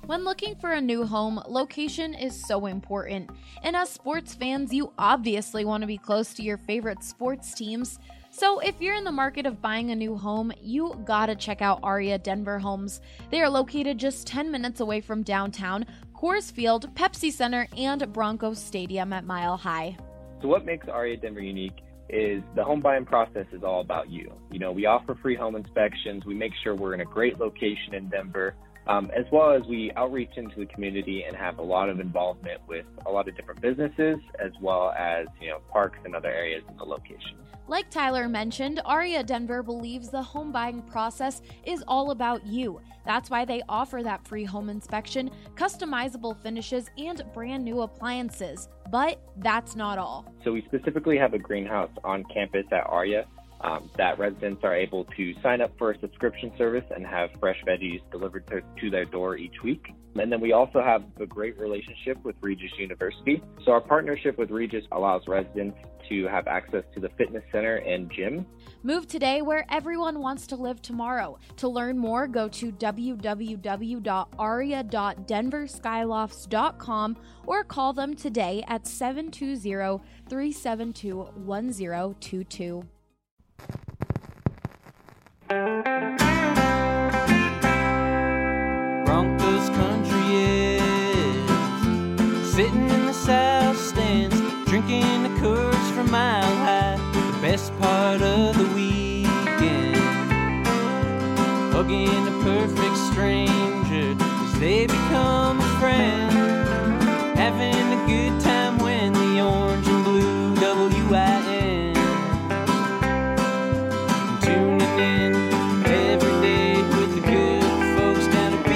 When looking for a new home, location is so important. And as sports fans, you obviously want to be close to your favorite sports teams. So if you're in the market of buying a new home, you gotta check out Aria Denver Homes. They are located just 10 minutes away from downtown, Coors Field, Pepsi Center, and Broncos Stadium at Mile High. So what makes Aria Denver unique is the home buying process is all about you. You know, we offer free home inspections. We make sure we're in a great location in Denver. As well as we outreach into the community and have a lot of involvement with a lot of different businesses, as well as, parks and other areas in the location. Like Tyler mentioned, Aria Denver believes the home buying process is all about you. That's why they offer that free home inspection, customizable finishes, and brand new appliances. But that's not all. So we specifically have a greenhouse on campus at Aria that residents are able to sign up for a subscription service and have fresh veggies delivered to their door each week. And then we also have a great relationship with Regis University. So our partnership with Regis allows residents to have access to the fitness center and gym. Move today where everyone wants to live tomorrow. To learn more, go to www.aria.denverskyloft's.com or call them today at 720-372-1022. Broncos country is sitting in the south stands, drinking the Coors from Mile High. The best part of the weekend, hugging a perfect stranger as they become a friend, having a good time when the orange and blue WIN, tuning in every day with the good folks down at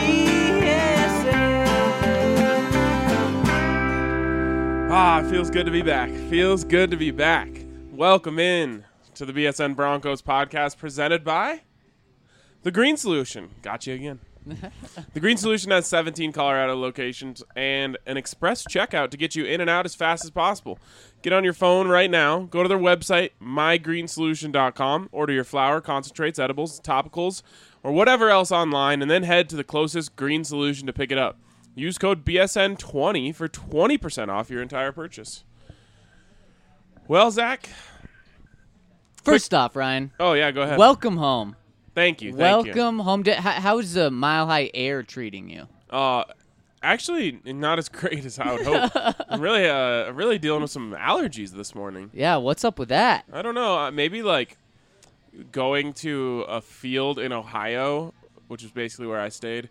BSN. It feels good to be back. Feels good to be back. Welcome in to the BSN Broncos podcast presented by The Green Solution. Got you again. The Green Solution has 17 Colorado locations and an express checkout to get you in and out as fast as possible. Get on your phone right now. Go to their website, mygreensolution.com. Order your flour, concentrates, edibles, topicals, or whatever else online, and then head to the closest Green Solution to pick it up. Use code BSN20 for 20% off your entire purchase. Well, Zach. First off, Ryan. Oh, yeah, go ahead. Welcome home. Thank you. Welcome home. How's the Mile High Air treating you? Actually, not as great as I would hope. I'm really dealing with some allergies this morning. Yeah, what's up with that? I don't know. Maybe like going to a field in Ohio, which is basically where I stayed.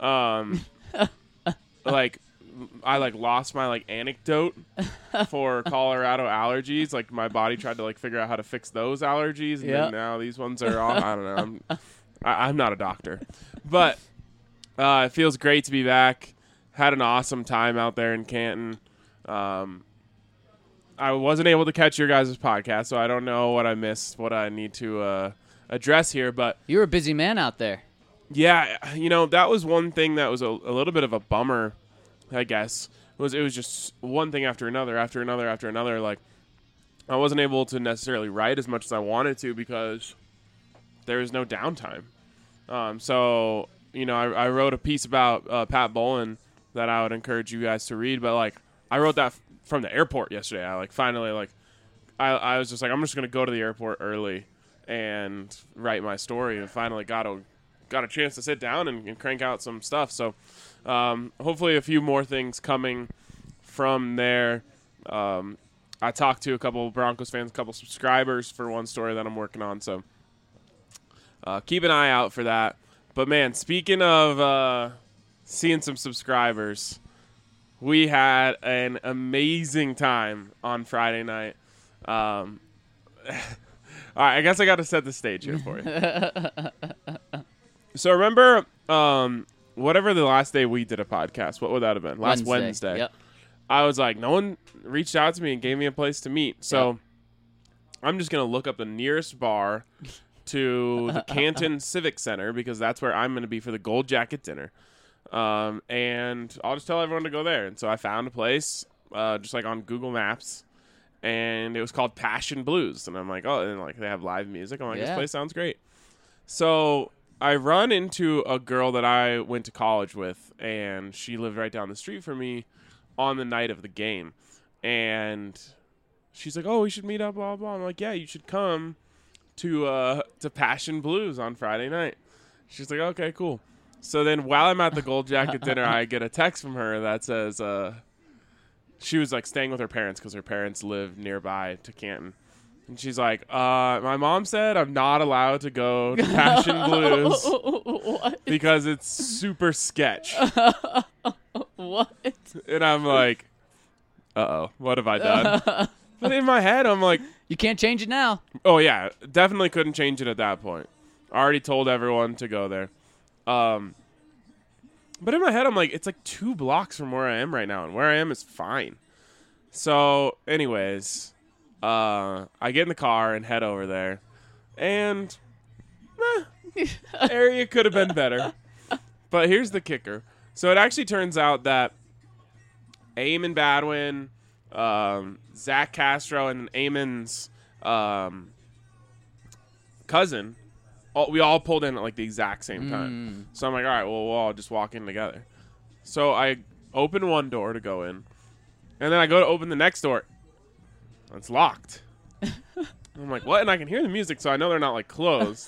I lost my anecdote for Colorado allergies. Like my body tried to figure out how to fix those allergies, and then now these ones are off. I don't know. I'm not a doctor, but it feels great to be back. Had an awesome time out there in Canton. I wasn't able to catch your guys' podcast, so I don't know what I missed, what I need to address here. But you were a busy man out there. Yeah, that was one thing that was a little bit of a bummer, I guess. It was just one thing after another, after another, after another. Like, I wasn't able to necessarily write as much as I wanted to because there was no downtime. So, I wrote a piece about Pat Bowlen that I would encourage you guys to read. But, I wrote that from the airport yesterday. I I was just I'm just going to go to the airport early and write my story, and finally got a chance to sit down and crank out some stuff. So hopefully a few more things coming from there. I talked to a couple of Broncos fans, a couple subscribers for one story that I'm working on. So keep an eye out for that. But, man, speaking of seeing some subscribers, we had an amazing time on Friday night. All right, I guess I got to set the stage here for you. So remember, whatever the last day we did a podcast, what would that have been? Last Wednesday. Yep. I was like, no one reached out to me and gave me a place to meet. So I'm just going to look up the nearest bar to the Canton Civic Center because that's where I'm going to be for the Gold Jacket dinner. And I'll just tell everyone to go there. And so I found a place just on Google Maps, and it was called Passion Blues. And I'm like, oh, and they have live music. I'm like, this place sounds great. So I run into a girl that I went to college with, and she lived right down the street from me on the night of the game. And she's like, "Oh, we should meet up, blah, blah." I'm like, "Yeah, you should come to Passion Blues on Friday night." She's like, "Okay, cool." So then while I'm at the Gold Jacket dinner, I get a text from her that says she was like staying with her parents because her parents live nearby to Canton. And she's like, my mom said I'm not allowed to go to Passion Blues because it's super sketch. What? And I'm like, uh-oh, what have I done? But in my head, I'm like, You can't change it now. oh, yeah, definitely couldn't change it at that point. I already told everyone to go there. But in my head, I'm like, it's like 2 blocks from where I am right now, and where I am is fine. So, anyways, I get in the car and head over there, and area could have been better. But here's the kicker. So it actually turns out that Eamon Badwin, Zach Castro, and Eamon's cousin, we all pulled in at like the exact same time. So I'm like, all right, well, we'll all just walk in together. So I open one door to go in, and then I go to open the next door. It's locked. I'm like, what? And I can hear the music, so I know they're not like closed.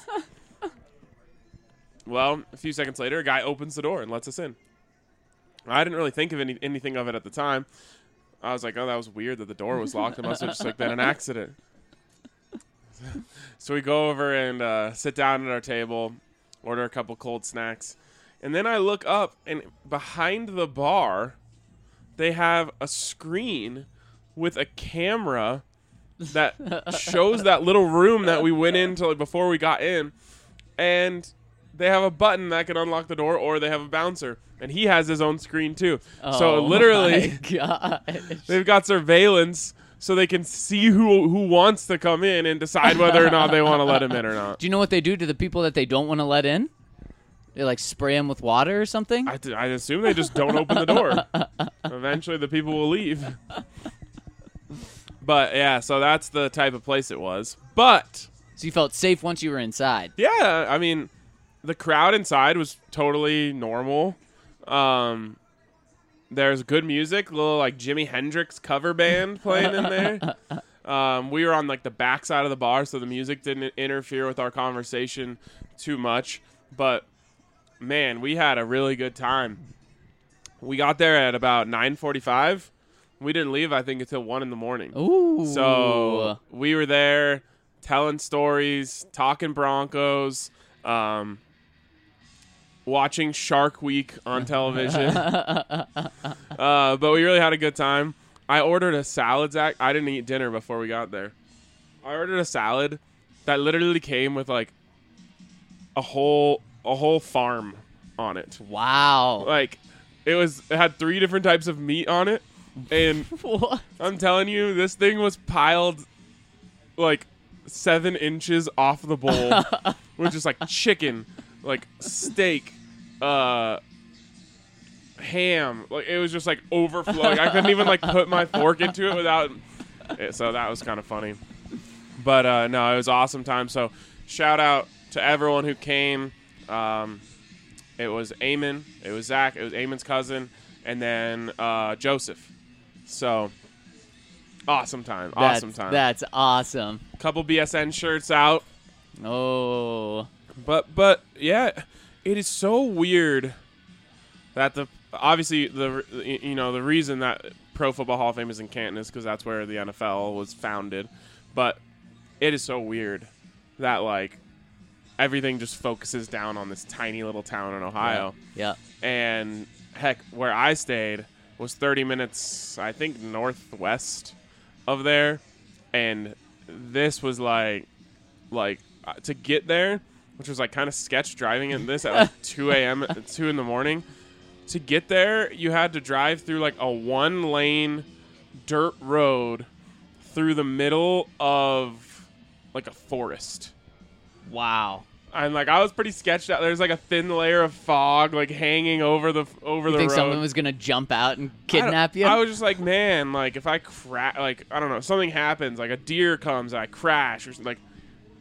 Well, a few seconds later, a guy opens the door and lets us in. I didn't really think of anything of it at the time. I was like, oh, that was weird that the door was locked. It must have just like been an accident. So we go over and sit down at our table, order a couple cold snacks. And then I look up, and behind the bar, they have a screen with a camera that shows that little room that we went into like, before we got in. And they have a button that can unlock the door, or they have a bouncer. And he has his own screen, too. So literally, they've got surveillance so they can see who wants to come in and decide whether or not they want to let him in or not. Do you know what they do to the people that they don't want to let in? They like spray them with water or something? I assume they just don't open the door. Eventually the people will leave. But, yeah, so that's the type of place it was. But So you felt safe once you were inside? yeah, I mean, the crowd inside was totally normal. There's good music, a little like Jimi Hendrix cover band playing in there. We were on like the back side of the bar, so the music didn't interfere with our conversation too much. But man, we had a really good time. We got there at about 9:45. We didn't leave, I think, until 1 a.m. Ooh. So we were there telling stories, talking Broncos, watching Shark Week on television. But we really had a good time. I ordered a salad, Zach. I didn't eat dinner before we got there. I ordered a salad that literally came with like a whole farm on it. Wow. Like it had 3 different types of meat on it. And What? I'm telling you, this thing was piled like 7 inches off the bowl with just like chicken, like steak, ham. Like it was just like overflowing. I couldn't even like put my fork into it without. So that was kind of funny. But no, it was awesome time. So shout out to everyone who came. It was Eamon, it was Zach, it was Eamon's cousin, and then Joseph. So awesome time. That's awesome. Couple BSN shirts out. Oh. But yeah, it is so weird that the reason that Pro Football Hall of Fame is in Canton is because that's where the NFL was founded. But it is so weird that like everything just focuses down on this tiny little town in Ohio. Yeah. And heck, where I stayed was 30 minutes, I think, northwest of there, and this was like to get there, which was like kind of sketch driving in this at like 2 a.m. 2 in the morning. To get there, you had to drive through like a 1-lane dirt road through the middle of like a forest. Wow. And like I was pretty sketched out. There's like a thin layer of fog like hanging over the You think road. someone was gonna jump out and kidnap you? I was just like, man, like if I crash, like I don't know, something happens, like a deer comes, I crash, or like,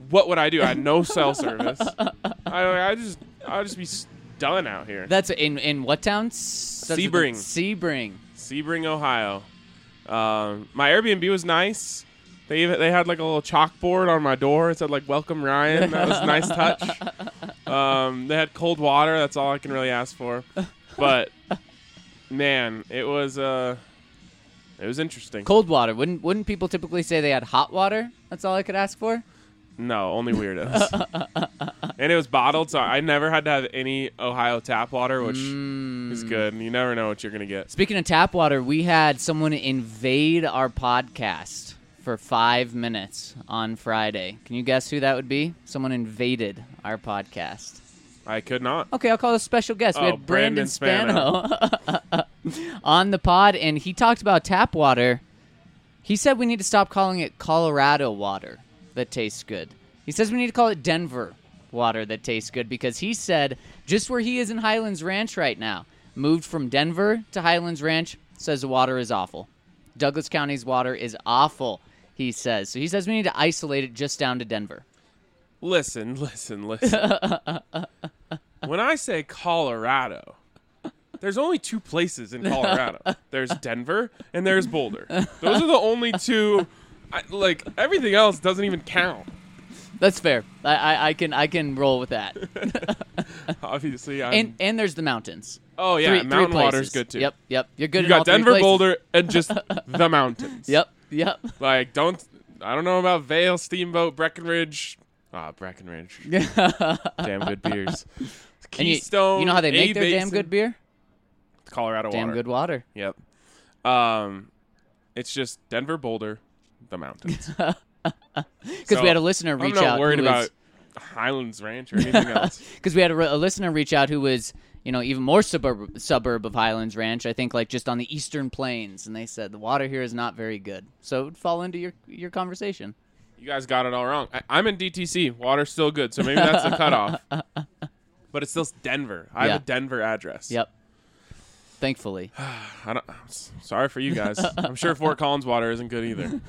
what would I do? I had no cell service. I'd just be done out here. That's in what town? Sebring. Sebring, Ohio. My Airbnb was nice. They had like a little chalkboard on my door. It said like "Welcome Ryan." That was a nice touch. They had cold water. That's all I can really ask for. But man, it was interesting. Cold water. Wouldn't people typically say they had hot water? That's all I could ask for. No, only weirdos. And it was bottled, so I never had to have any Ohio tap water, which is good. You never know what you're going to get. Speaking of tap water, we had someone invade our podcast for 5 minutes on Friday. Can you guess who that would be? Someone invaded our podcast. I could not. Okay, I'll call a special guest. We had Brandon Spano on the pod, and he talked about tap water. He said we need to stop calling it Colorado water that tastes good. He says we need to call it Denver water that tastes good because he said just where he is in Highlands Ranch right now, moved from Denver to Highlands Ranch, says the water is awful. Douglas County's water is awful, he says. So he says we need to isolate it just down to Denver. Listen. When I say Colorado, there's only 2 places in Colorado. There's Denver and there's Boulder. Those are the only 2. Everything else doesn't even count. That's fair. I can roll with that. Obviously, and there's the mountains. Oh yeah, three mountain places. water's good too. Yep. You're good. You in all got 3 Denver, places. Boulder, and just the mountains. Yep. I don't know about Vail, Steamboat, Breckenridge. Breckenridge. Damn good beers. Keystone. You know how they make their Basin. damn good beer? Colorado water. Damn good water. Yep. It's just Denver, Boulder, the mountains. Because we had a listener reach out. I'm not worried about Highlands Ranch or anything else. Because we had a listener reach out who was, even more suburb of Highlands Ranch. I think just on the eastern plains, and they said the water here is not very good. So it would fall into your conversation. You guys got it all wrong. I'm in DTC. Water's still good, so maybe that's the cutoff. But it's still Denver. I have a Denver address. Yep. Thankfully. Sorry for you guys. I'm sure Fort Collins water isn't good either.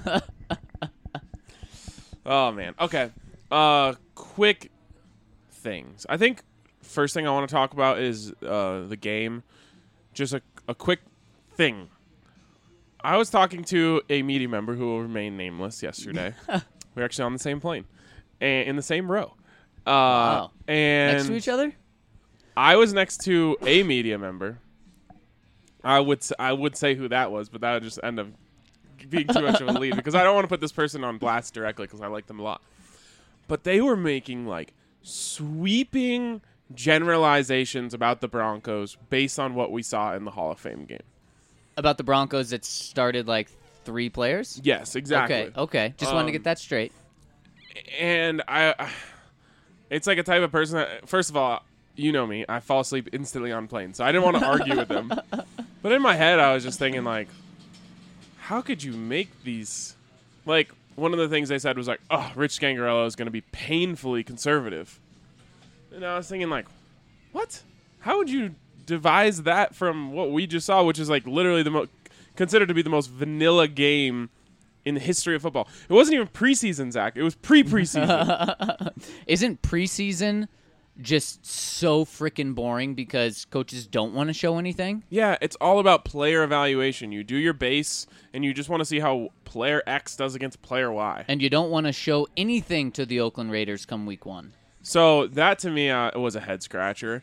Oh, man. Okay. Quick things. I think first thing I want to talk about is the game. Just a quick thing. I was talking to a media member who will remain nameless yesterday. We were actually on the same plane and in the same row. Wow. And next to each other? I was next to a media member. I would say who that was, but that would just end up being too much of a lead because I don't want to put this person on blast directly because I like them a lot. But they were making sweeping generalizations about the Broncos based on what we saw in the Hall of Fame game. About the Broncos that started 3 players? Yes, exactly. Okay. Just wanted to get that straight. And it's like a type of person that, first of all, you know me, I fall asleep instantly on planes, so I didn't want to argue with them. But in my head, I was just thinking, how could you make these? One of the things they said was Rich Scangarello is going to be painfully conservative. And I was thinking, what? How would you devise that from what we just saw, which is literally considered to be the most vanilla game in the history of football? It wasn't even preseason, Zach. It was pre-preseason. Isn't preseason just so freaking boring because coaches don't want to show anything? Yeah, it's all about player evaluation. You do your base, and you just want to see how player X does against player Y. And you don't want to show anything to the Oakland Raiders come week 1. So that, to me, was a head-scratcher.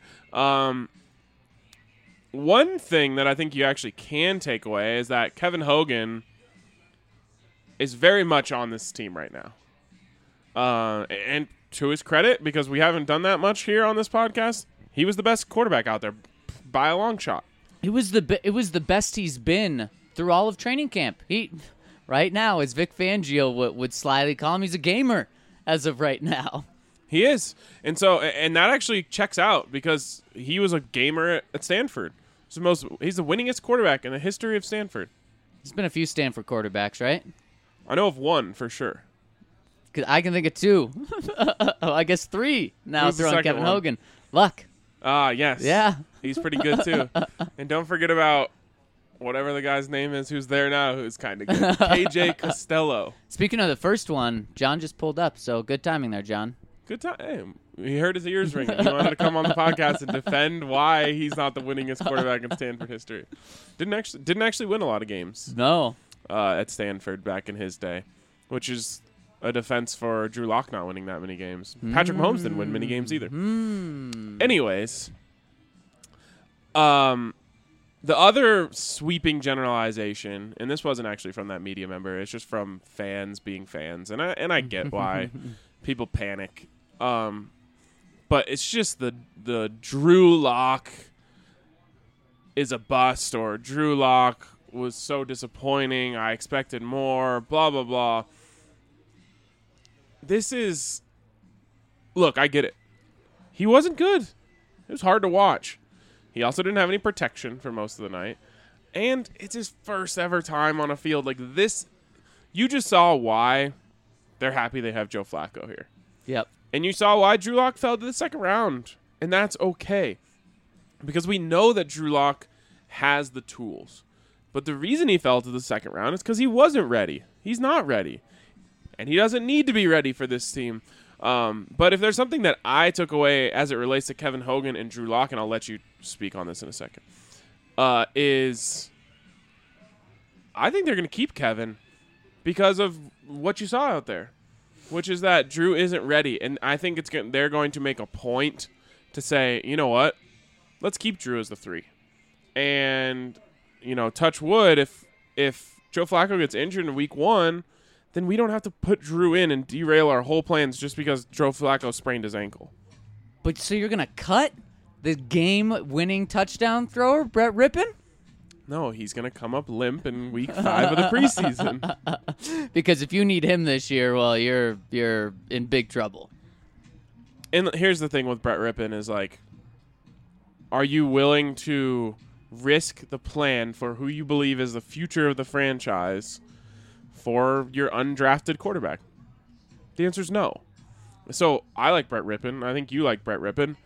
One thing that I think you actually can take away is that Kevin Hogan is very much on this team right now. And to his credit, because we haven't done that much here on this podcast, he was the best quarterback out there by a long shot. It was the best he's been through all of training camp. He right now, as Vic Fangio would slyly call him, he's a gamer as of right now. He is. And that actually checks out because he was a gamer at Stanford. He's the winningest quarterback in the history of Stanford. There's been a few Stanford quarterbacks, right? I know of one for sure. I can think of 2. I guess 3 now throwing Kevin Hogan. Luck. Yes. Yeah. He's pretty good too. And don't forget about whatever the guy's name is who's there now, who's kind of good. KJ Costello. Speaking of the first one, John just pulled up, so good timing there, John. Good time. Hey, he heard his ears ringing. He wanted to come on the podcast and defend why he's not the winningest quarterback in Stanford history. Didn't actually win a lot of games No. at Stanford back in his day, which is a defense for Drew Lock not winning that many games. Patrick Mahomes didn't win many games either. Anyways, the other sweeping generalization, and this wasn't actually from that media member, it's just from fans being fans, and I get why people panic. But it's just the Drew Lock is a bust, or Drew Lock was so disappointing, I expected more, blah, blah, blah. This is... Look, I get it. He wasn't good. It was hard to watch. He also didn't have any protection for most of the night. And it's his first ever time on a field like this. You just saw why they're happy they have Joe Flacco here. Yep. And you saw why Drew Lock fell to the second round. And that's okay. Because we know that Drew Lock has the tools. But the reason he fell to the second round is because he wasn't ready. He's not ready. And he doesn't need to be ready for this team. But if there's something that I took away as it relates to Kevin Hogan and Drew Lock, and I'll let you speak on this in a second, is I think they're going to keep Kevin because of what you saw out there, which is that Drew isn't ready. And I think they're going to make a point to say, you know what, let's keep Drew as the 3. And, touch wood, if Joe Flacco gets injured in week 1, then we don't have to put Drew in and derail our whole plans just because Joe Flacco sprained his ankle. But so you're going to cut the game-winning touchdown thrower, Brett Rippon? No, he's going to come up limp in week 5 of the preseason. Because if you need him this year, well, you're in big trouble. And here's the thing with Brett Rippon is, like, are you willing to risk the plan for who you believe is the future of the franchise for your undrafted quarterback? The answer is no. So I like Brett Rippon. I think you like Brett Rippon.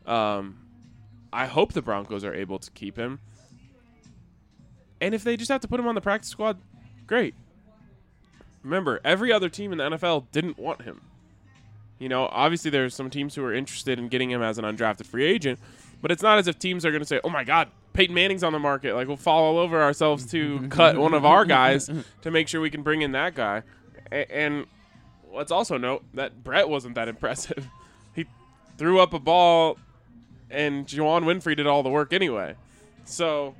I hope the Broncos are able to keep him. And if they just have to put him on the practice squad, great. Remember, every other team in the NFL didn't want him. Obviously there's some teams who are interested in getting him as an undrafted free agent, but it's not as if teams are going to say, oh my God, Peyton Manning's on the market. Like, we'll fall all over ourselves to cut one of our guys to make sure we can bring in that guy. And let's also note that Brett wasn't that impressive. He threw up a ball, and Juwan Winfrey did all the work anyway. So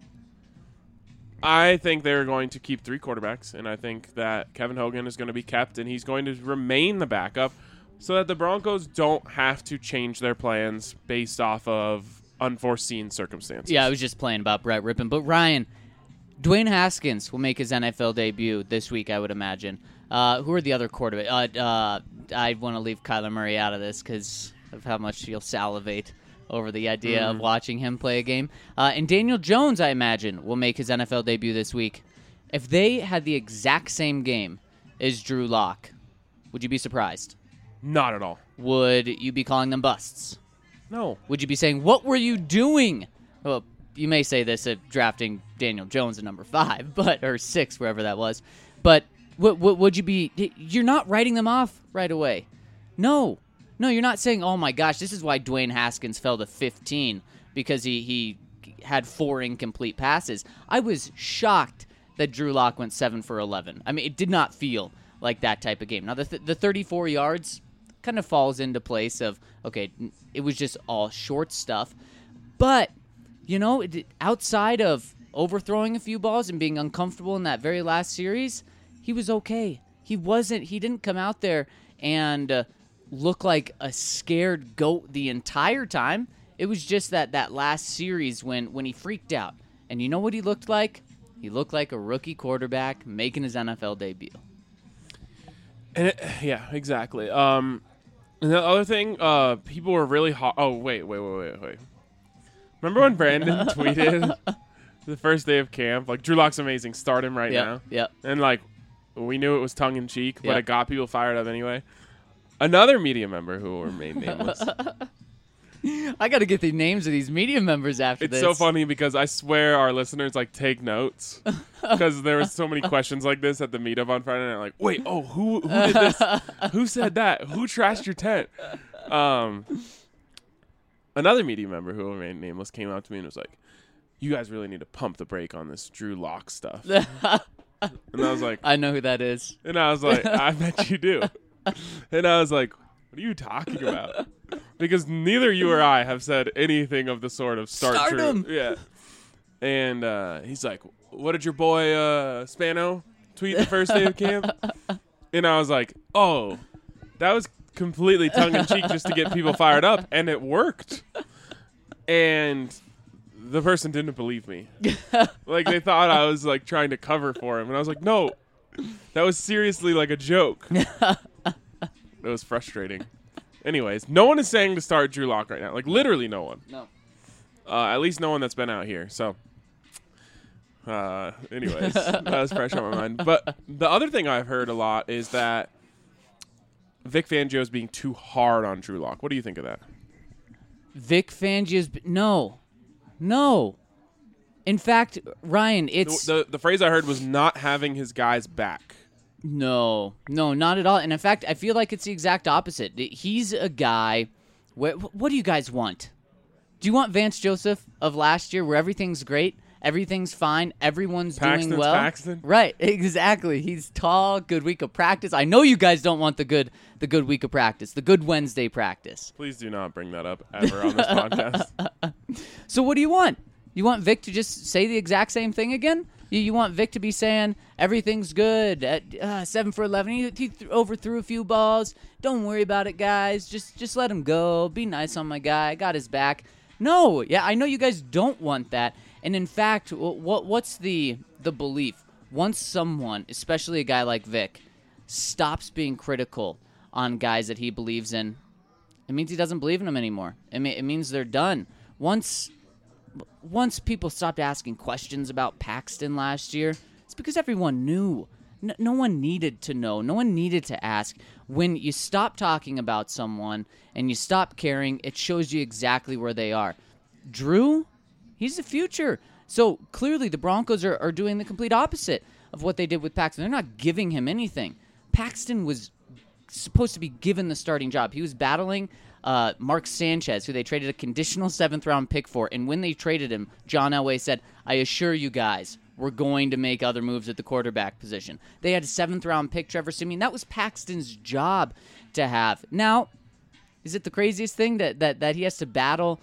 I think they're going to keep 3 quarterbacks, and I think that Kevin Hogan is going to be kept, and he's going to remain the backup so that the Broncos don't have to change their plans based off of unforeseen circumstances. Yeah, I was just playing about Brett Rippon. But, Ryan, Dwayne Haskins will make his NFL debut this week, I would imagine. Who are the other quarterbacks? I want to leave Kyler Murray out of this because of how much you'll salivate over the idea of watching him play a game. And Daniel Jones, I imagine, will make his NFL debut this week. If they had the exact same game as Drew Lock, would you be surprised? Not at all. Would you be calling them busts? No. Would you be saying, what were you doing? Well, you may say this at drafting Daniel Jones at number 5, or 6, wherever that was. But what would you be? You're not writing them off right away. No, you're not saying, oh my gosh, this is why Dwayne Haskins fell to 15, because he had 4 incomplete passes. I was shocked that Drew Lock went 7 for 11. I mean, it did not feel like that type of game. Now, the 34 yards kind of falls into place of, okay, it was just all short stuff. But, outside of overthrowing a few balls and being uncomfortable in that very last series, he was okay. He didn't come out there and look like a scared goat the entire time. It was just that last series when he freaked out. And you know what he looked like? He looked like a rookie quarterback making his NFL debut. And yeah, exactly. And the other thing, people were really hot. Oh, wait. Remember when Brandon tweeted the first day of camp, like, Drew Lock's amazing, start him right now? Yep. And, like, we knew it was tongue-in-cheek, but Yep. it got people fired up anyway. Another media member who will remain nameless I got to get the names of these media members after It's this. so funny because I swear our listeners like take notes because there were so many questions like this at the meetup on Friday night. Like, wait, who did this? Who said that? Who trashed your tent? Another media member who remained nameless came out to me and was like, "You guys really need to pump the brake on this Drew Lock stuff." And I was like, I know who that is. and I was like, I bet you do. And I was like, what are you talking about? Because neither you or I have said anything of the sort of start Drew. him. Yeah. And he's like, what did your boy Spano tweet the first day of camp? And I was like, oh, that was completely tongue-in-cheek just to get people fired up, and it worked. And the person didn't believe me. Like, they thought I was, like, trying to cover for him. And I was like, no, that was seriously, like, a joke. It was frustrating. Anyways, no one is saying to start Drew Lock right now. Like, literally no one. No. At least no one that's been out here. So, anyways, that was fresh on my mind. But the other thing I've heard a lot is that Vic Fangio is being too hard on Drew Lock. What do you think of that? Vic Fangio's... No. In fact, Ryan, it's... The phrase I heard was not having his guys back. No, not at all. And in fact, I feel like it's the exact opposite. He's a guy... What do you guys want? Do you want Vance Joseph of last year where everything's great, everything's fine, everyone's doing well? Paxton. Right, exactly. He's tall, good week of practice. I know you guys don't want the good week of practice, the good Wednesday practice. Please do not bring that up ever on this podcast. So what do you want? You want Vic to just say the exact same thing again? You want Vic to be saying everything's good at 7 for 11. He overthrew a few balls. Don't worry about it, guys. Just let him go. Be nice on my guy. I got his back. No, yeah, I know you guys don't want that. And in fact, what's the belief? Once someone, especially a guy like Vic, stops being critical on guys that he believes in, it means he doesn't believe in them anymore. It means they're done. Once people stopped asking questions about Paxton last year, it's because everyone knew. No one needed to know. No one needed to ask. When you stop talking about someone and you stop caring, it shows you exactly where they are. Drew, he's the future. So clearly the Broncos are doing the complete opposite of what they did with Paxton. They're not giving him anything. Paxton was supposed to be given the starting job. He was battling Mark Sanchez, who they traded a conditional 7th-round pick for. And when they traded him, John Elway said, I assure you guys, we're going to make other moves at the quarterback position. They had a 7th-round pick, Trevor Siemian. That was Paxton's job to have. Now, is it the craziest thing that he has to battle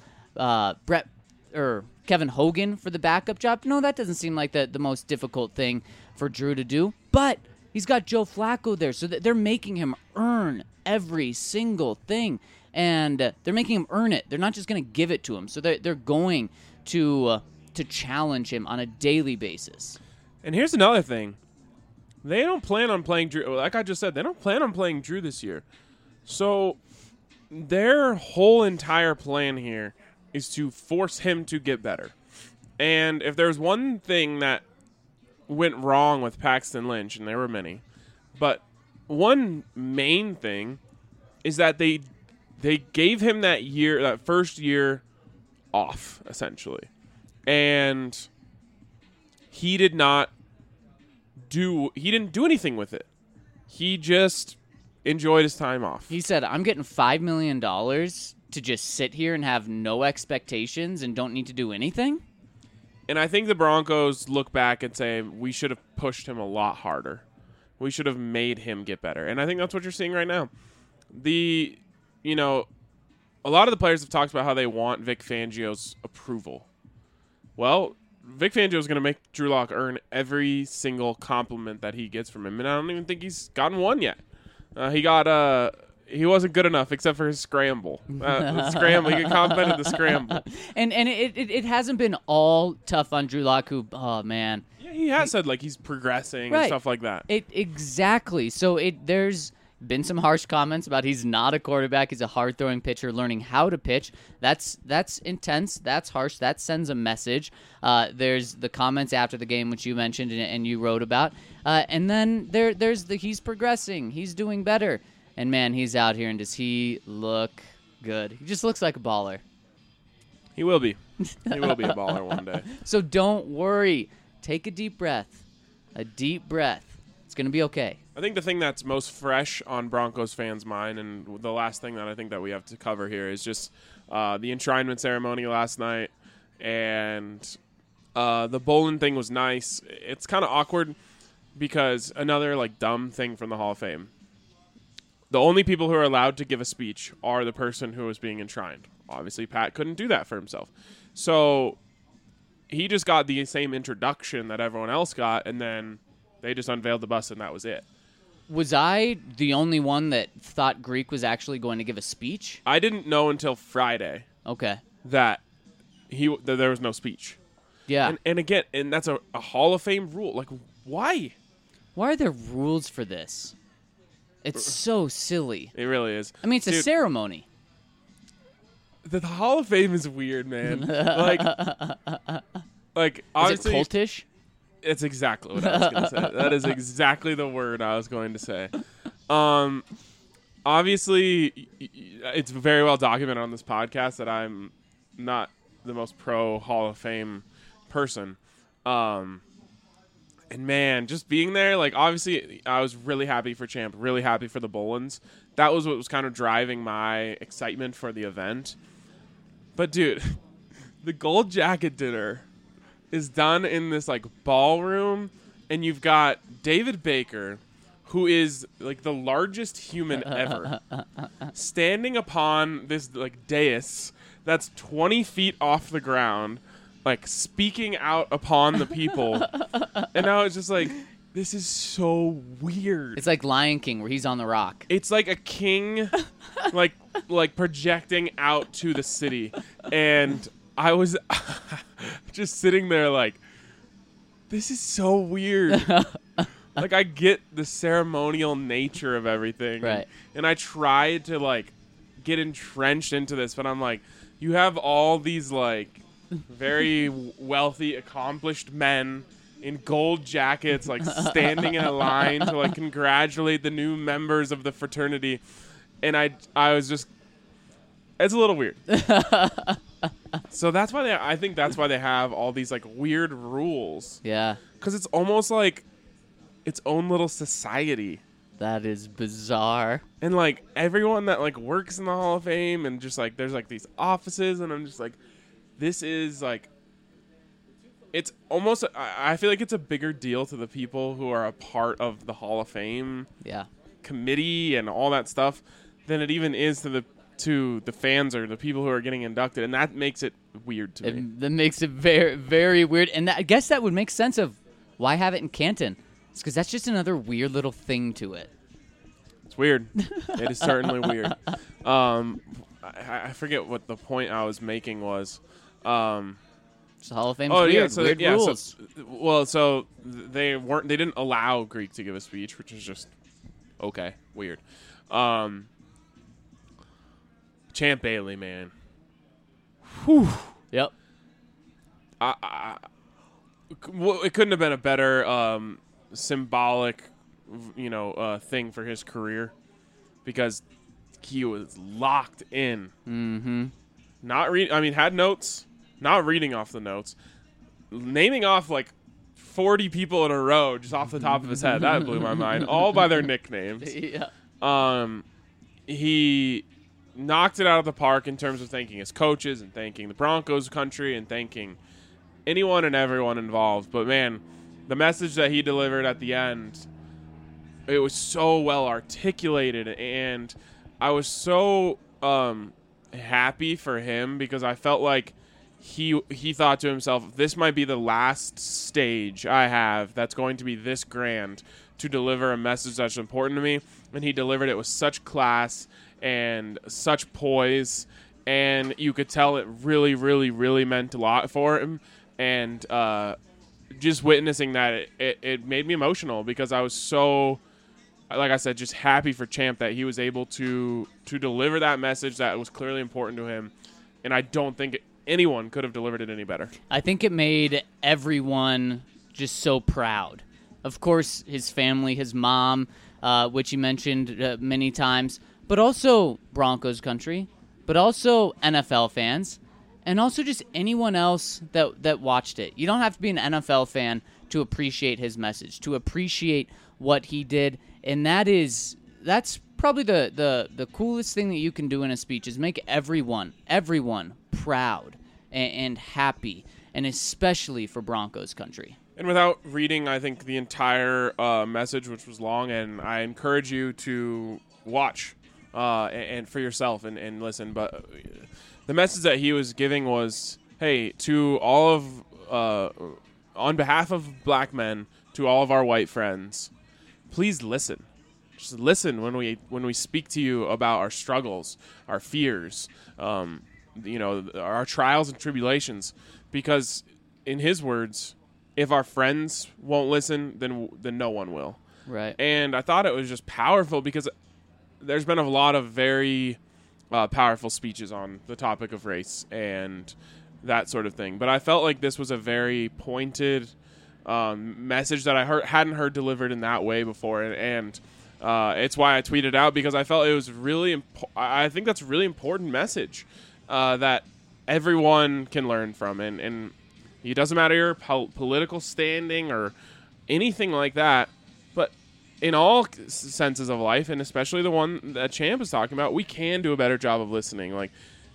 Kevin Hogan for the backup job? No, that doesn't seem like the most difficult thing for Drew to do. But he's got Joe Flacco there, so they're making him earn every single thing. And they're making him earn it. They're not just going to give it to him. So they're going to challenge him on a daily basis. And here's another thing. They don't plan on playing Drew. Like I just said, they don't plan on playing Drew this year. So their whole entire plan here is to force him to get better. And if there's one thing that went wrong with Paxton Lynch, and there were many, but one main thing is that they gave him that first year off, essentially. And he didn't do anything with it. He just enjoyed his time off. He said, I'm getting $5 million to just sit here and have no expectations and don't need to do anything? And I think the Broncos look back and say, we should have pushed him a lot harder. We should have made him get better. And I think that's what you're seeing right now. A lot of the players have talked about how they want Vic Fangio's approval. Well, Vic Fangio is going to make Drew Lock earn every single compliment that he gets from him, and I don't even think he's gotten one yet. He wasn't good enough except for his scramble. The scramble, he complimented the scramble, and it hasn't been all tough on Drew Lock. Who, oh man, yeah, he has said like he's progressing and stuff like that. Exactly. So there's been some harsh comments about he's not a quarterback. He's a hard-throwing pitcher learning how to pitch. That's intense. That's harsh. That sends a message. There's the comments after the game, which you mentioned and you wrote about. And then there's he's progressing. He's doing better. And, man, he's out here, and does he look good. He just looks like a baller. He will be. He will be a baller one day. So don't worry. Take a deep breath. A deep breath. It's going to be okay. I think the thing that's most fresh on Broncos fans' mind, and the last thing that I think that we have to cover here is just the enshrinement ceremony last night, and the Bolin thing was nice. It's kind of awkward because another like dumb thing from the Hall of Fame. The only people who are allowed to give a speech are the person who is being enshrined. Obviously, Pat couldn't do that for himself. So he just got the same introduction that everyone else got, and then they just unveiled the bust, and that was it. Was I the only one that thought Greek was actually going to give a speech? I didn't know until Friday Okay. that there was no speech. Yeah. And again, and that's a Hall of Fame rule. Like, why? Why are there rules for this? It's so silly. It really is. I mean, it's a Dude, ceremony. The Hall of Fame is weird, man. like Is it honestly, cultish? it's exactly what I was going to say. That is exactly the word I was going to say. Obviously, it's very well documented on this podcast that I'm not the most pro Hall of Fame person. And man, just being there, like, obviously, I was really happy for Champ, really happy for the Bolins. That was what was kind of driving my excitement for the event. But, dude, the gold jacket dinner is done in this, like, ballroom, and you've got David Baker, who is, like, the largest human ever, standing upon this, like, dais that's 20 feet off the ground, like, speaking out upon the people. And now it's just like, this is so weird. It's like Lion King where he's on the rock. It's like a king, like projecting out to the city. And I was just sitting there like, this is so weird. Like, I get the ceremonial nature of everything. Right. And I tried to, like, get entrenched into this, but I'm like, you have all these, like, very wealthy, accomplished men in gold jackets, like, standing in a line to, like, congratulate the new members of the fraternity. And I was just, it's a little weird. So that's why I think that's why they have all these, like, weird rules. Yeah. Because it's almost like its own little society. That is bizarre. And, like, everyone that, like, works in the Hall of Fame and just, like, there's, like, these offices, and I'm just like, this is, like, it's almost, I feel like it's a bigger deal to the people who are a part of the Hall of Fame committee and all that stuff than it even is to the fans or the people who are getting inducted, and that makes it weird to me. That makes it very, very weird. And I guess that would make sense of why have it in Canton. It's because that's just another weird little thing to it. It's weird. It is certainly weird. I forget what the point I was making was. It's the Hall of Fame's weird. So, weird rules. So they didn't allow Greek to give a speech, which is just okay, weird. Champ Bailey, man. Whew. Yep. It couldn't have been a better symbolic, thing for his career, because he was locked in. Mm-hmm. Had notes, not reading off the notes, naming off like 40 people in a row just off the top of his head. That blew my mind. All by their nicknames. Yeah. He knocked it out of the park in terms of thanking his coaches and thanking the Broncos country and thanking anyone and everyone involved. But man, the message that he delivered at the end, it was so well articulated, and I was so happy for him because I felt like he thought to himself, this might be the last stage I have that's going to be this grand to deliver a message that's important to me. And he delivered it with such class and such poise, and you could tell it really, really, really meant a lot for him. And just witnessing that, it made me emotional because I was so, like I said, just happy for Champ that he was able to deliver that message that was clearly important to him. And I don't think anyone could have delivered it any better. I think it made everyone just so proud. Of course, his family, his mom, which he mentioned many times, but also Broncos country, but also NFL fans, and also just anyone else that watched it. You don't have to be an NFL fan to appreciate his message, to appreciate what he did, and that's probably the coolest thing that you can do in a speech is make everyone proud and happy, and especially for Broncos country. And without reading, I think, the entire message, which was long, and I encourage you to watch and for yourself and listen. But the message that he was giving was, hey, to all of, on behalf of black men, to all of our white friends, please listen. Just listen when we speak to you about our struggles, our fears, our trials and tribulations. Because in his words, if our friends won't listen, then no one will. Right. And I thought it was just powerful because there's been a lot of very powerful speeches on the topic of race and that sort of thing. But I felt like this was a very pointed message that I hadn't heard delivered in that way before. And it's why I tweeted out, because I felt it was really I think that's a really important message that everyone can learn from. And it doesn't matter your political standing or anything like that, but in all senses of life, and especially the one that Champ is talking about, we can do a better job of listening. Like,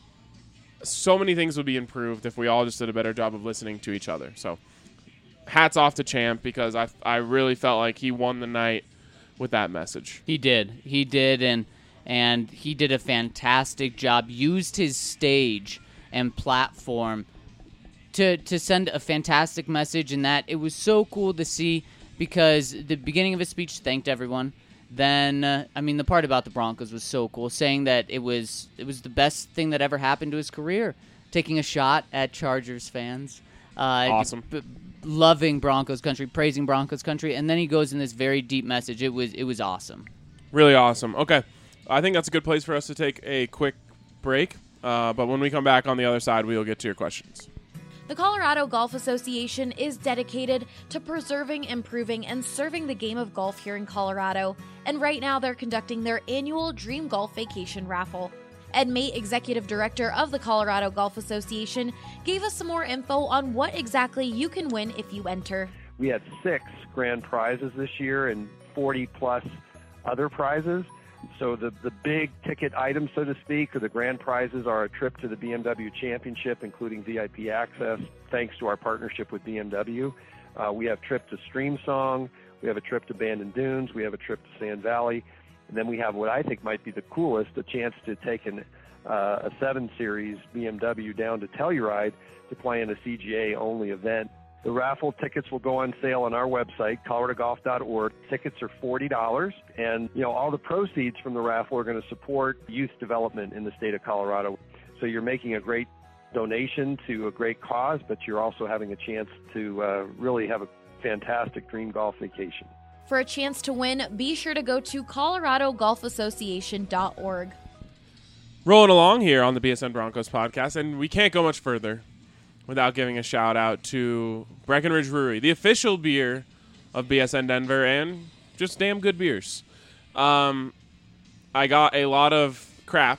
so many things would be improved if we all just did a better job of listening to each other. So hats off to Champ, because I really felt like he won the night with that message. He did, and he did a fantastic job. Used his stage and platform to send a fantastic message, and that it was so cool to see, because the beginning of his speech thanked everyone. Then, the part about the Broncos was so cool, saying that it was the best thing that ever happened to his career, taking a shot at Chargers fans. Awesome. Loving Broncos country, praising Broncos country, and then he goes in this very deep message. It was awesome. Really awesome. Okay, I think that's a good place for us to take a quick break, but when we come back on the other side, we will get to your questions. The Colorado Golf Association is dedicated to preserving, improving, and serving the game of golf here in Colorado, and right now they're conducting their annual Dream Golf Vacation Raffle. Ed Mate, Executive Director of the Colorado Golf Association, gave us some more info on what exactly you can win if you enter. We had 6 grand prizes this year and 40-plus other prizes. So the big ticket items, so to speak, or the grand prizes, are a trip to the BMW Championship, including VIP access, thanks to our partnership with BMW. We have a trip to Streamsong. We have a trip to Bandon Dunes. We have a trip to Sand Valley. And then we have what I think might be the coolest, a chance to take a 7 Series BMW down to Telluride to play in a CGA-only event. The raffle tickets will go on sale on our website, coloradogolf.org. Tickets are $40, and all the proceeds from the raffle are going to support youth development in the state of Colorado. So you're making a great donation to a great cause, but you're also having a chance to really have a fantastic dream golf vacation. For a chance to win, be sure to go to coloradogolfassociation.org. Rolling along here on the BSN Broncos podcast, and we can't go much further without giving a shout out to Breckenridge Brewery, the official beer of BSN Denver, and just damn good beers. I got a lot of crap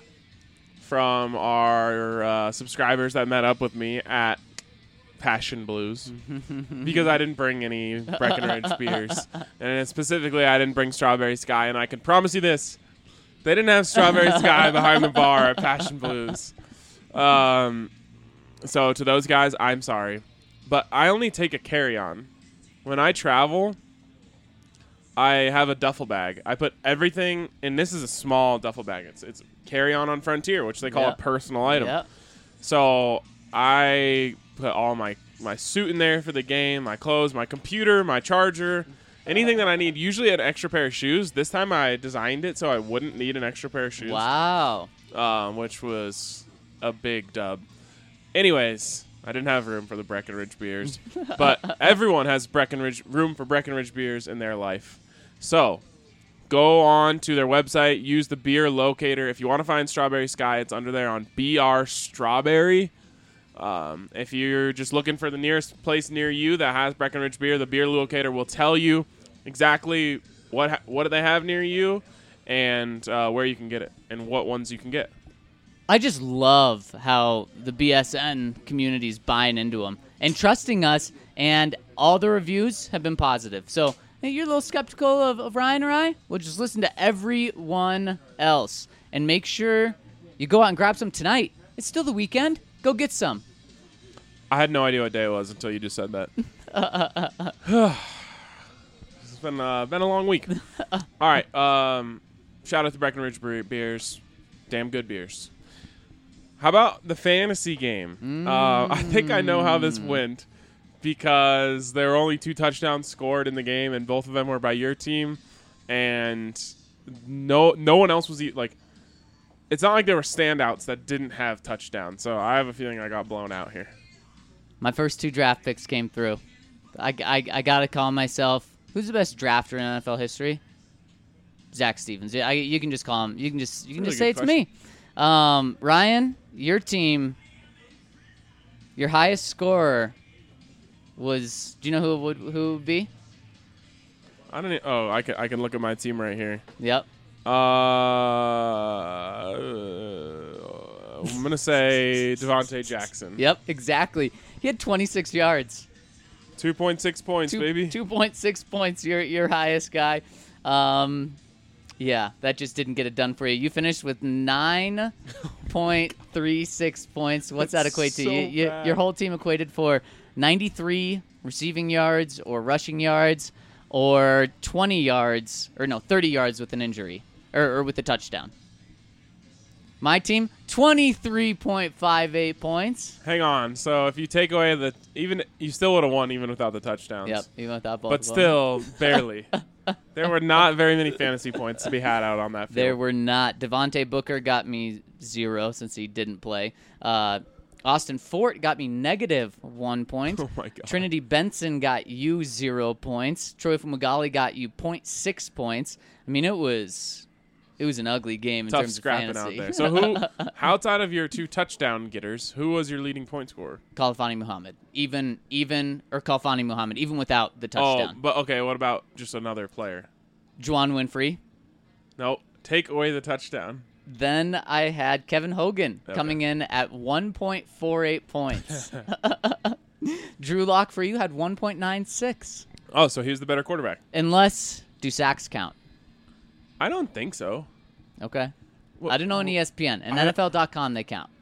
from our subscribers that met up with me at Passion Blues because I didn't bring any Breckenridge beers, and specifically I didn't bring Strawberry Sky, and I can promise you this: they didn't have Strawberry Sky behind the bar at Passion Blues. So to those guys, I'm sorry. But I only take a carry-on. When I travel, I have a duffel bag. I put everything, and this is a small duffel bag. It's carry-on on Frontier, which they call a personal item. Yep. So I put all my suit in there for the game, my clothes, my computer, my charger, anything that I need. Usually an extra pair of shoes. This time I designed it so I wouldn't need an extra pair of shoes. Wow. Which was a big dub. Anyways, I didn't have room for the Breckenridge beers, but everyone has room for Breckenridge beers in their life. So go on to their website, use the beer locator. If you want to find Strawberry Sky, it's under there on BR Strawberry. If you're just looking for the nearest place near you that has Breckenridge beer, the beer locator will tell you exactly what they have near you and where you can get it and what ones you can get. I just love how the BSN community is buying into him and trusting us, and all the reviews have been positive. So hey, you're a little skeptical of Ryan or I? Well, just listen to everyone else and make sure you go out and grab some tonight. It's still the weekend. Go get some. I had no idea what day it was until you just said that. It's been a long week. All right. Shout out to Breckenridge Beers. Damn good beers. How about the fantasy game? I think I know how this went because there were only 2 touchdowns scored in the game, and both of them were by your team. And no one else was like. It's not like there were standouts that didn't have touchdowns. So I have a feeling I got blown out here. My first 2 draft picks came through. I gotta call myself. Who's the best drafter in NFL history? Zach Stevens. You can just call him. You can just say it's me. Ryan, your team, your highest scorer was. Do you know who it would be? I don't. I can look at my team right here. Yep. I'm gonna say Devontae Jackson. Yep, exactly. He had 26 yards. 2.6 points, baby. 2.6 points. Your highest guy. Yeah, that just didn't get it done for you. You finished with 9.36 points. What's that equate to? Your whole team equated for 93 receiving yards or rushing yards, or 30 yards with an injury or with a touchdown. My team, 23.58 points. Hang on. So if you take away you still would have won even without the touchdowns. Yep, even without both. But still, barely. There were not very many fantasy points to be had out on that field. There were not. Devontae Booker got me 0 since he didn't play. Austin Fort got me -1 point. Oh my God. Trinity Benson got you 0 points. Troy Fumagalli got you 0.6 points. I mean, it was an ugly game in Tough terms of scrapping fantasy. out there. So who, outside of your 2 touchdown getters, who was your leading point scorer? Khalfani Muhammad. Even Khalfani Muhammad, even without the touchdown. Oh, but okay, what about just another player? Juwan Winfrey. No, take away the touchdown. Then I had Kevin Hogan coming in at 1.48 points. Drew Lock for you had 1.96. Oh, so he was the better quarterback. Unless, do sacks count? I don't think so. Okay. I don't know on ESPN. And NFL.com, they count.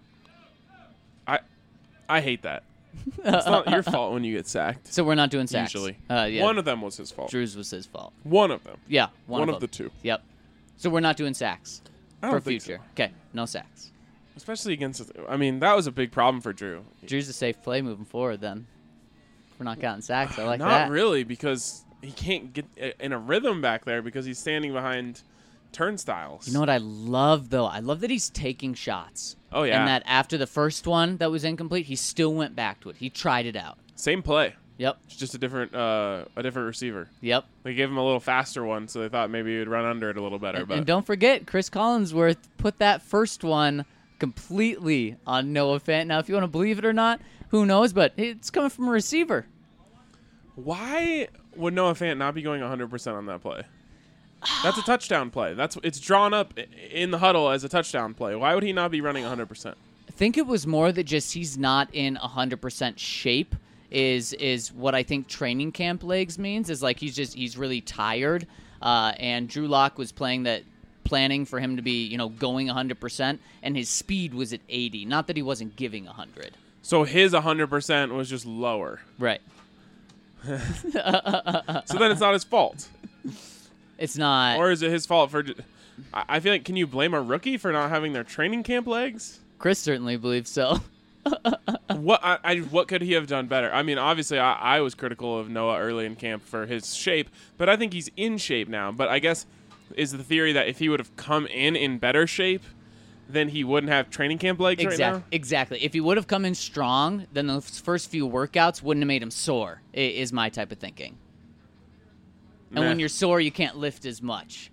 I hate that. It's not your fault when you get sacked. So we're not doing sacks. Usually. Yeah. One of them was his fault. Drew's was his fault. One of them. Yeah. One of them. the 2. Yep. So we're not doing sacks I don't for think future. so. Okay. No sacks. Especially against, I mean, that was a big problem for Drew. Drew's a safe play moving forward then. We're not counting sacks. I like Not that. really, because he can't get in a rhythm back there because he's standing behind turnstiles. You know what I love, though? I love that he's taking shots. Oh, yeah. And that after the first one that was incomplete, he still went back to it. He tried it out. Same play. Yep. It's just a different receiver. Yep. They gave him a little faster one, so they thought maybe he would run under it a little better. And don't forget, Chris Collinsworth put that first one completely on Noah Fant. Now, if you want to believe it or not, who knows? But it's coming from a receiver. Why would Noah Fant not be going 100% on that play? That's a touchdown play. It's drawn up in the huddle as a touchdown play. Why would he not be running 100%? I think it was more that just he's not in 100% shape is what I think training camp legs means. Is like he's really tired. And Drew Lock was planning for him to be going 100%, and his speed was at 80. Not that he wasn't giving 100. So his 100% was just lower. Right. So then it's not his fault. It's not. Or is it his fault for? I feel like, can you blame a rookie for not having their training camp legs? Chris certainly believes so. What could he have done better? I mean, obviously, I was critical of Noah early in camp for his shape, but I think he's in shape now. But I guess is the theory that if he would have come in better shape, then he wouldn't have training camp legs right now? Exactly. If he would have come in strong, then those first few workouts wouldn't have made him sore, is my type of thinking. And when you're sore, you can't lift as much.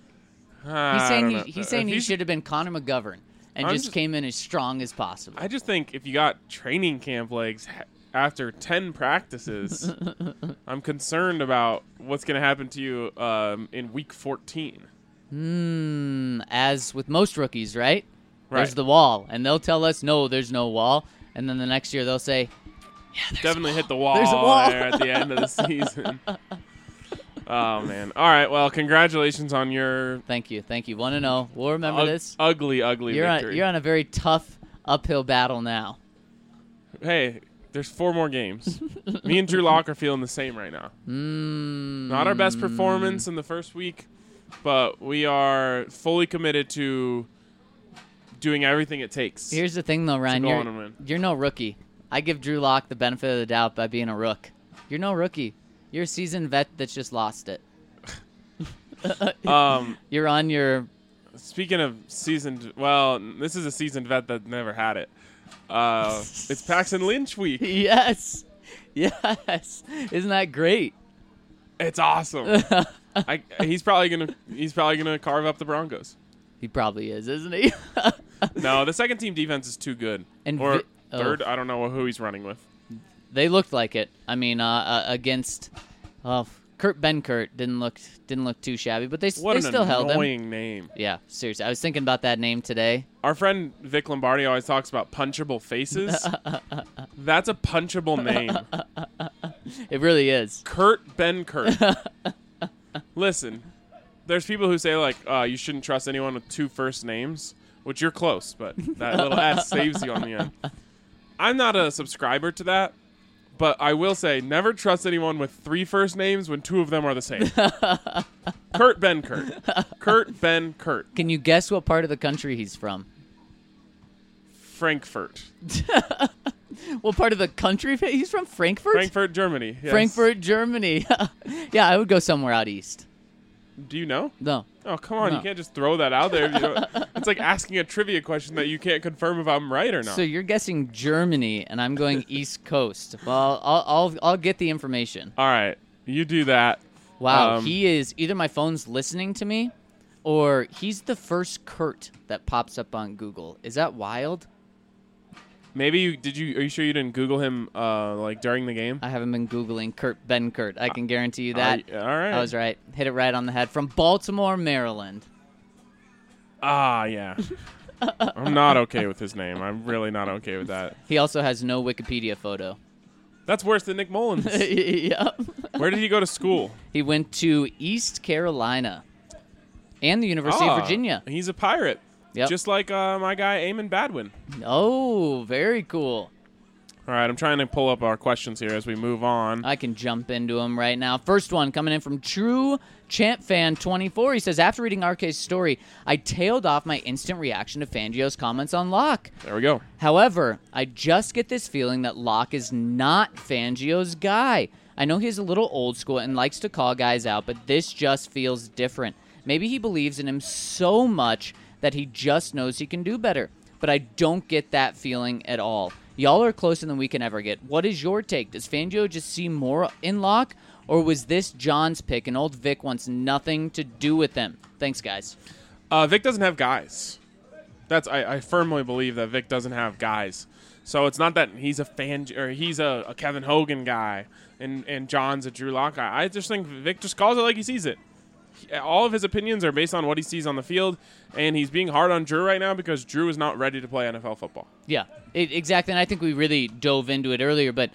He's saying he should have been Connor McGovern and just came in as strong as possible. I just think if you got training camp legs after 10 practices, I'm concerned about what's going to happen to you in week 14. As with most rookies, right? There's Right. the wall. And they'll tell us, no, there's no wall. And then the next year they'll say, yeah, there's Definitely a wall. hit the wall, There's a wall. there at the end of the season. Oh, man. All right, well, congratulations on your Thank you. 1-0. We'll remember this. ugly victory. You're on a very tough uphill battle now. Hey, there's 4 more games. Me and Drew Lock are feeling the same right now. Not our best performance in the first week, but we are fully committed to doing everything it takes. Here's the thing, though, Ryan. go on and win. You're no rookie. I give Drew Lock the benefit of the doubt by being a rook. You're no rookie. You're a seasoned vet that's just lost it. You're on your... Speaking of seasoned, well, this is a seasoned vet that never had it. It's Paxton Lynch week. Yes. Isn't that great? It's awesome. He's probably gonna carve up the Broncos. He probably is, isn't he? No, the second team defense is too good. And or third, I don't know who he's running with. They looked like it. I mean, against Kurt Benkert didn't look too shabby, but they still held him. What an annoying name. Yeah, seriously. I was thinking about that name today. Our friend Vic Lombardi always talks about punchable faces. That's a punchable name. It really is. Kurt Benkert. Listen, there's people who say, like, you shouldn't trust anyone with 2 first names, which you're close, but that little S saves you on the end. I'm not a subscriber to that, but I will say never trust anyone with 3 first names when 2 of them are the same. Kurt Benkert. Kurt Benkert. Can you guess what part of the country he's from? Frankfurt. What part of the country? He's from Frankfurt? Frankfurt, Germany. Yes. Frankfurt, Germany. Yeah, I would go somewhere out east. Do you know? No. Oh, come on. No. You can't just throw that out there. It's like asking a trivia question that you can't confirm if I'm right or not. So you're guessing Germany, and I'm going East Coast. Well, I'll get the information. All right. You do that. Wow, he is either my phone's listening to me, or he's the first Kurt that pops up on Google. Is that wild? Maybe are you sure you didn't Google him like during the game? I haven't been Googling Kurt Benkert. I can guarantee you that. All right. I was right. Hit it right on the head. From Baltimore, Maryland. Ah, yeah. I'm not okay with his name. I'm really not okay with that. He also has no Wikipedia photo. That's worse than Nick Mullins. Yep. Where did he go to school? He went to East Carolina and the University of Virginia. He's a Pirate. Yep. Just like my guy, Eamon Badwin. Oh, very cool. All right, I'm trying to pull up our questions here as we move on. I can jump into them right now. First one coming in from True Champ Fan 24. He says, after reading RK's story, I tailed off my instant reaction to Fangio's comments on Locke. There we go. However, I just get this feeling that Locke is not Fangio's guy. I know he's a little old school and likes to call guys out, but this just feels different. Maybe he believes in him so much that he just knows he can do better. But I don't get that feeling at all. Y'all are closer than we can ever get. What is your take? Does Fangio just see more in Locke? Or was this John's pick and old Vic wants nothing to do with them? Thanks, guys. Vic doesn't have guys. I firmly believe that Vic doesn't have guys. So it's not that he's a fan or he's a Kevin Hogan guy and John's a Drew Lock guy. I just think Vic just calls it like he sees it. All of his opinions are based on what he sees on the field, and he's being hard on Drew right now because Drew is not ready to play NFL football. Yeah, exactly, and I think we really dove into it earlier, but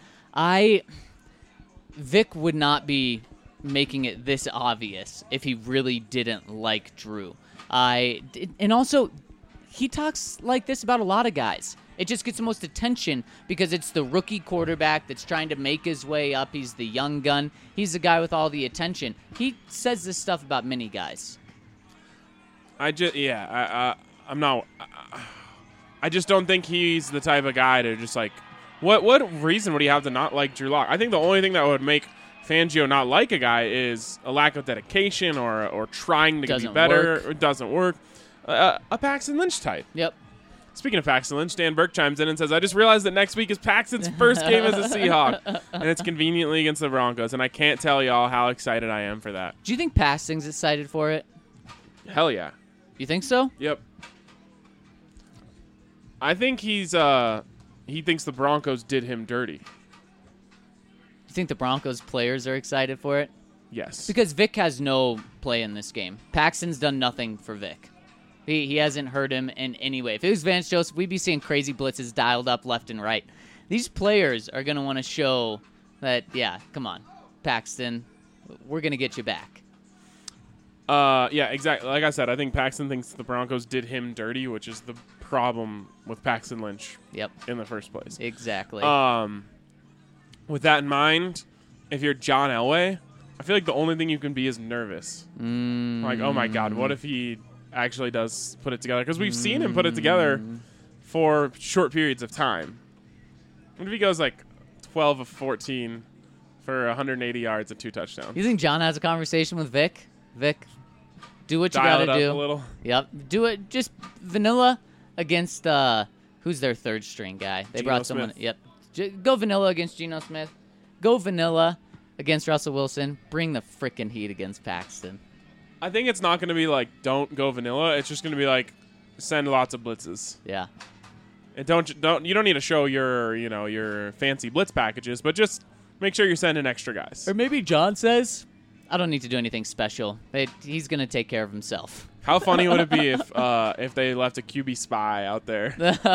Vic would not be making it this obvious if he really didn't like Drew. And also, he talks like this about a lot of guys. It just gets the most attention because it's the rookie quarterback that's trying to make his way up. He's the young gun. He's the guy with all the attention. He says this stuff about many guys. I just don't think he's the type of guy to just like, what reason would he have to not like Drew Lock? I think the only thing that would make Fangio not like a guy is a lack of dedication or trying to be better. It doesn't work. A Paxton Lynch type. Yep. Speaking of Paxton Lynch, Dan Burke chimes in and says, I just realized that next week is Paxton's first game as a Seahawk, and it's conveniently against the Broncos, and I can't tell y'all how excited I am for that. Do you think Paxton's excited for it? Hell yeah. You think so? Yep. I think he thinks the Broncos did him dirty. You think the Broncos players are excited for it? Yes. Because Vic has no play in this game. Paxton's done nothing for Vic. He hasn't hurt him in any way. If it was Vance Joseph, we'd be seeing crazy blitzes dialed up left and right. These players are going to want to show that, yeah, come on, Paxton, we're going to get you back. Yeah, exactly. Like I said, I think Paxton thinks the Broncos did him dirty, which is the problem with Paxton Lynch in the first place. Exactly. With that in mind, if you're John Elway, I feel like the only thing you can be is nervous. Like, oh my God, what if he actually does put it together? Because we've seen him put it together for short periods of time. What if he goes like 12 of 14 for 180 yards and 2 touchdowns? You think John has a conversation with Vic? Vic, do what you got to do. Dial it up a little. Yep. Do it just vanilla against who's their third string guy? They Geno brought someone. Smith. Yep. Go vanilla against Geno Smith. Go vanilla against Russell Wilson. Bring the frickin' heat against Paxton. I think it's not going to be like don't go vanilla. It's just going to be like send lots of blitzes. Yeah. And you don't need to show your fancy blitz packages, but just make sure you're sending extra guys. Or maybe John says, I don't need to do anything special. He's going to take care of himself. How funny would it be if they left a QB spy out there?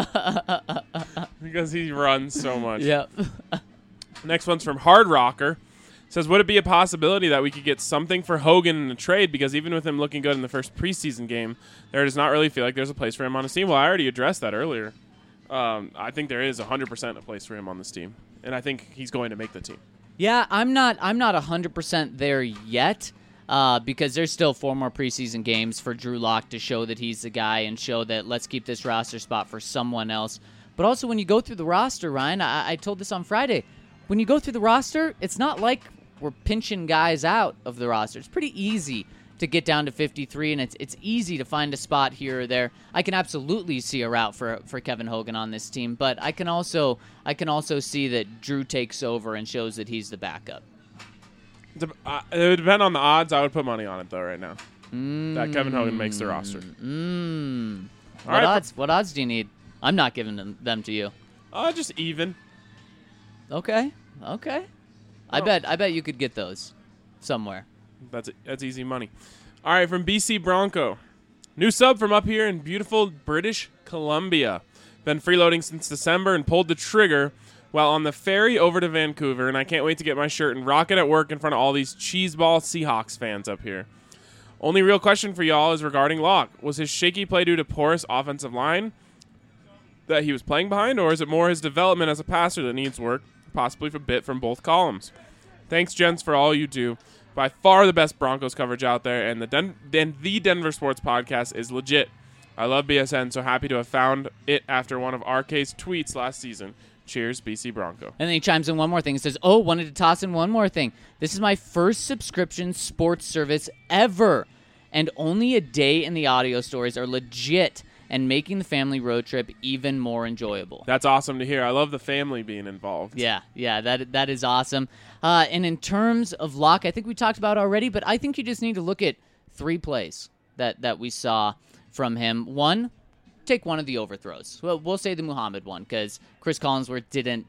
Because he runs so much. Yep. Next one's from Hard Rocker. Says, would it be a possibility that we could get something for Hogan in a trade? Because even with him looking good in the first preseason game, there does not really feel like there's a place for him on his team. Well, I already addressed that earlier. I think there is 100% a place for him on this team, and I think he's going to make the team. Yeah, I'm not 100% there yet because there's still 4 more preseason games for Drew Lock to show that he's the guy and show that let's keep this roster spot for someone else. But also when you go through the roster, Ryan, I told this on Friday, when you go through the roster, it's not like we're pinching guys out of the roster. It's pretty easy to get down to 53, and it's easy to find a spot here or there. I can absolutely see a route for Kevin Hogan on this team, but I can also see that Drew takes over and shows that he's the backup. It would depend on the odds. I would put money on it, though, right now. That Kevin Hogan makes the roster. What odds do you need? I'm not giving them to you. Just even. Okay. I bet you could get those somewhere. That's easy money. All right, from BC Bronco. New sub from up here in beautiful British Columbia. Been freeloading since December and pulled the trigger while on the ferry over to Vancouver, and I can't wait to get my shirt and rock it at work in front of all these cheeseball Seahawks fans up here. Only real question for y'all is regarding Locke. Was his shaky play due to porous offensive line that he was playing behind, or is it more his development as a passer that needs work, possibly a bit from both columns? Thanks, gents, for all you do. By far the best Broncos coverage out there, and the Denver Sports Podcast is legit. I love BSN, so happy to have found it after one of RK's tweets last season. Cheers, BC Bronco. And then he chimes in one more thing. He says, wanted to toss in one more thing. This is my first subscription sports service ever, and only a day in the audio stories are legit and making the family road trip even more enjoyable. That's awesome to hear. I love the family being involved. Yeah, that is awesome. And in terms of Locke, I think we talked about already, but I think you just need to look at 3 plays that we saw from him. One, take one of the overthrows. Well, we'll say the Muhammad one because Chris Collinsworth didn't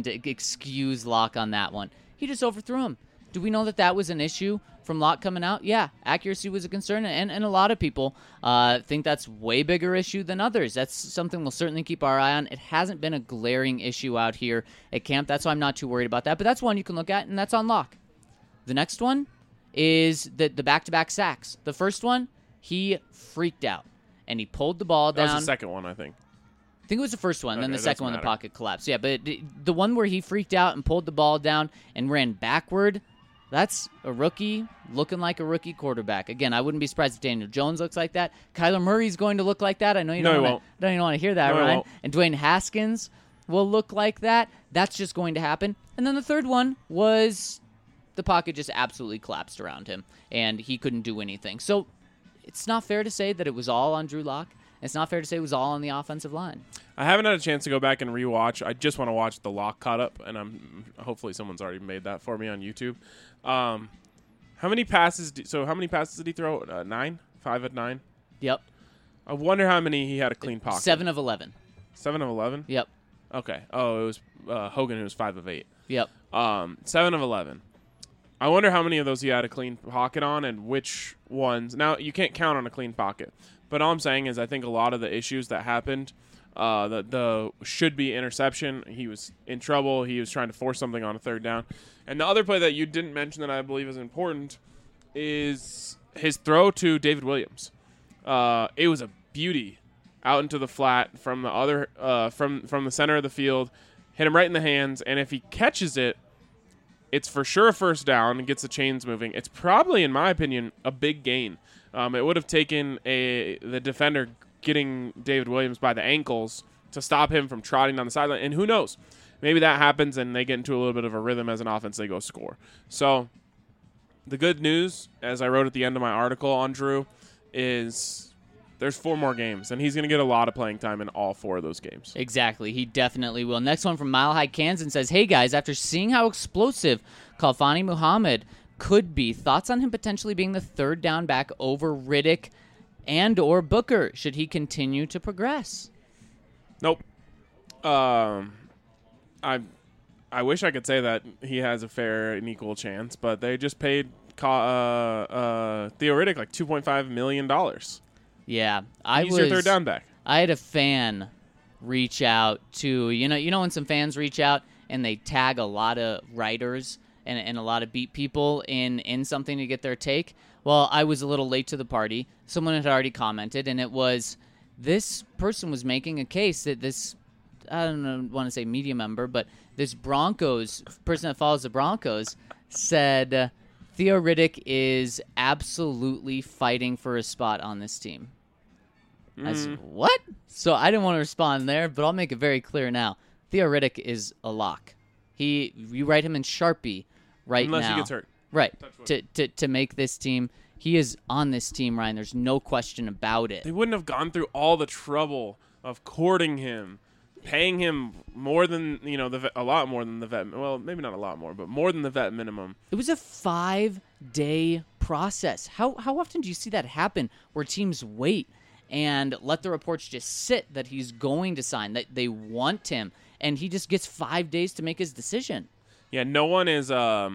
excuse Locke on that one. He just overthrew him. Do we know that was an issue from Locke coming out? Yeah, accuracy was a concern, and a lot of people think that's way bigger issue than others. That's something we'll certainly keep our eye on. It hasn't been a glaring issue out here at camp. That's why I'm not too worried about that, but that's one you can look at, and that's on Locke. The next one is the back-to-back sacks. The first one, he freaked out, and he pulled the ball down. That was the second one, I think. I think it was the first one, then the second one, the pocket collapsed. Yeah, but the one where he freaked out and pulled the ball down and ran backward, that's a rookie looking like a rookie quarterback. Again, I wouldn't be surprised if Daniel Jones looks like that. Kyler Murray's going to look like that. I know you don't even want to hear that, no, Ryan. And Dwayne Haskins will look like that. That's just going to happen. And then the third one was the pocket just absolutely collapsed around him, and he couldn't do anything. So it's not fair to say that it was all on Drew Lock. It's not fair to say it was all on the offensive line. I haven't had a chance to go back and rewatch. I just want to watch the Lock cut up, and hopefully someone's already made that for me on YouTube. How many passes did he throw? 9? 5 at 9? Yep. I wonder how many he had a clean pocket. 7 of 11. 7 of 11? Yep. Okay. Oh, it was Hogan who was 5 of 8. Yep. 7 of 11. I wonder how many of those he had a clean pocket on and which ones. Now, you can't count on a clean pocket, But all I'm saying is I think a lot of the issues that happened, the should-be interception, he was in trouble. He was trying to force something on a third down. And the other play that you didn't mention that I believe is important is his throw to David Williams. It was a beauty out into the flat from the other from the center of the field, hit him right in the hands, and if he catches it, it's for sure a first down and gets the chains moving. It's probably, in my opinion, a big gain. It would have taken the defender getting David Williams by the ankles to stop him from trotting down the sideline, and who knows? Maybe that happens and they get into a little bit of a rhythm as an offense, they go score. So the good news, as I wrote at the end of my article on Drew, is there's 4 more games, and he's going to get a lot of playing time in all 4 of those games. Exactly. He definitely will. Next one from Mile High Kansas says, hey, guys, after seeing how explosive Khalfani Muhammad could be, thoughts on him potentially being the third down back over Riddick and or Booker? Should he continue to progress? Nope. I wish I could say that he has a fair and equal chance, but they just paid Theo Riddick like $2.5 million. Yeah, He's your third down back. I had a fan reach out to you know when some fans reach out and they tag a lot of writers and a lot of beat people in something to get their take. Well, I was a little late to the party. Someone had already commented, and it was this person was making a case that this, I don't want to say media member, but this Broncos person that follows the Broncos said Theo Riddick is absolutely fighting for a spot on this team. I said, what? So I didn't want to respond there, but I'll make it very clear now. Theo Riddick is a lock. You write him in Sharpie right Unless now. he gets hurt. Right. To make this team. He is on this team, Ryan. There's no question about it. They wouldn't have gone through all the trouble of courting him, paying him more than, a lot more than the vet. Well, maybe not a lot more, but more than the vet minimum. It was a 5-day process. How often do you see that happen where teams wait and let the reports just sit that he's going to sign, that they want him, and he just gets 5 days to make his decision? Yeah, no one is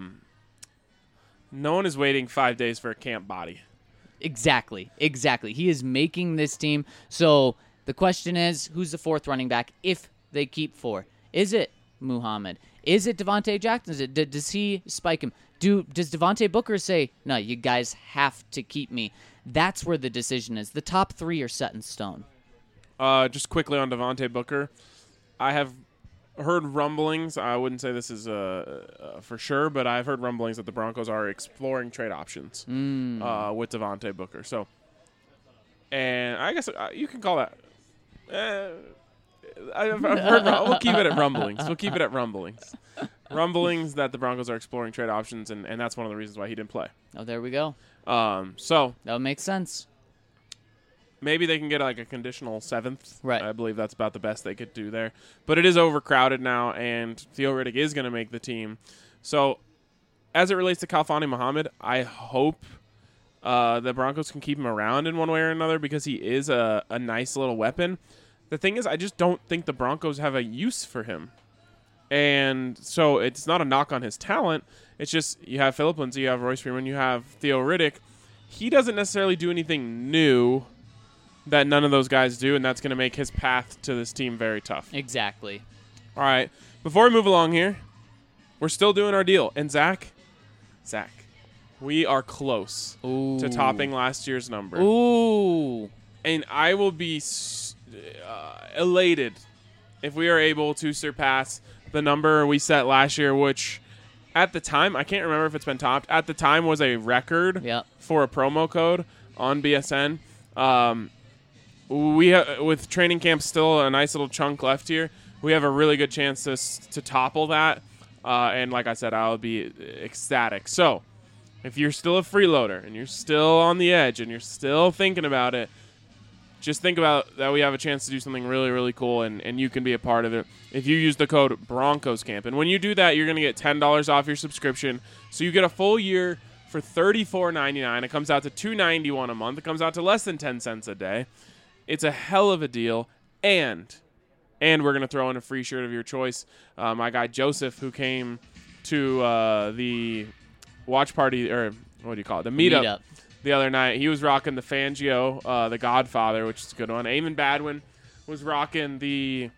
waiting 5 days for a camp body. Exactly. He is making this team. So the question is, who's the 4th running back if they keep 4? Is it Muhammad? Is it Devontae Jackson? Does he spike him? Does Devontae Booker say, no, you guys have to keep me? That's where the decision is. The top 3 are set in stone. Just quickly on Devontae Booker, I have heard rumblings. I wouldn't say this is for sure, but I've heard rumblings that the Broncos are exploring trade options with Devontae Booker. So, and I guess you can call that. I've heard. We'll keep it at rumblings. Rumblings that the Broncos are exploring trade options, and that's one of the reasons why he didn't play. Oh, there we go. So that would make sense. Maybe they can get like a conditional 7th. Right. I believe that's about the best they could do there. But it is overcrowded now, and Theo Riddick is going to make the team. So as it relates to Khalfani Muhammad, I hope the Broncos can keep him around in one way or another because he is a nice little weapon. The thing is, I just don't think the Broncos have a use for him. And so it's not a knock on his talent. It's just you have Phillip Lindsay, you have Royce Freeman, you have Theo Riddick. He doesn't necessarily do anything new that none of those guys do, and that's going to make his path to this team very tough. Exactly. All right. Before we move along here, we're still doing our deal. And Zach, we are close to topping last year's number. Ooh. And I will be elated if we are able to surpass the number we set last year, which at the time, I can't remember if it's been topped, at the time was a record for a promo code on BSN. With training camp still a nice little chunk left here, we have a really good chance to topple that. And like I said, I'll be ecstatic. So if you're still a freeloader and you're still on the edge and you're still thinking about it, just think about that we have a chance to do something really, really cool, and you can be a part of it if you use the code BroncosCamp. And when you do that, you're going to get $10 off your subscription. So you get a full year for $34.99. It comes out to $2.91 a month. It comes out to less than 10 cents a day. It's a hell of a deal. And we're going to throw in a free shirt of your choice. My guy Joseph, who came to the watch party, or what do you call it? The meetup the other night. He was rocking the Fangio, the Godfather, which is a good one. Eamon Badwin was rocking the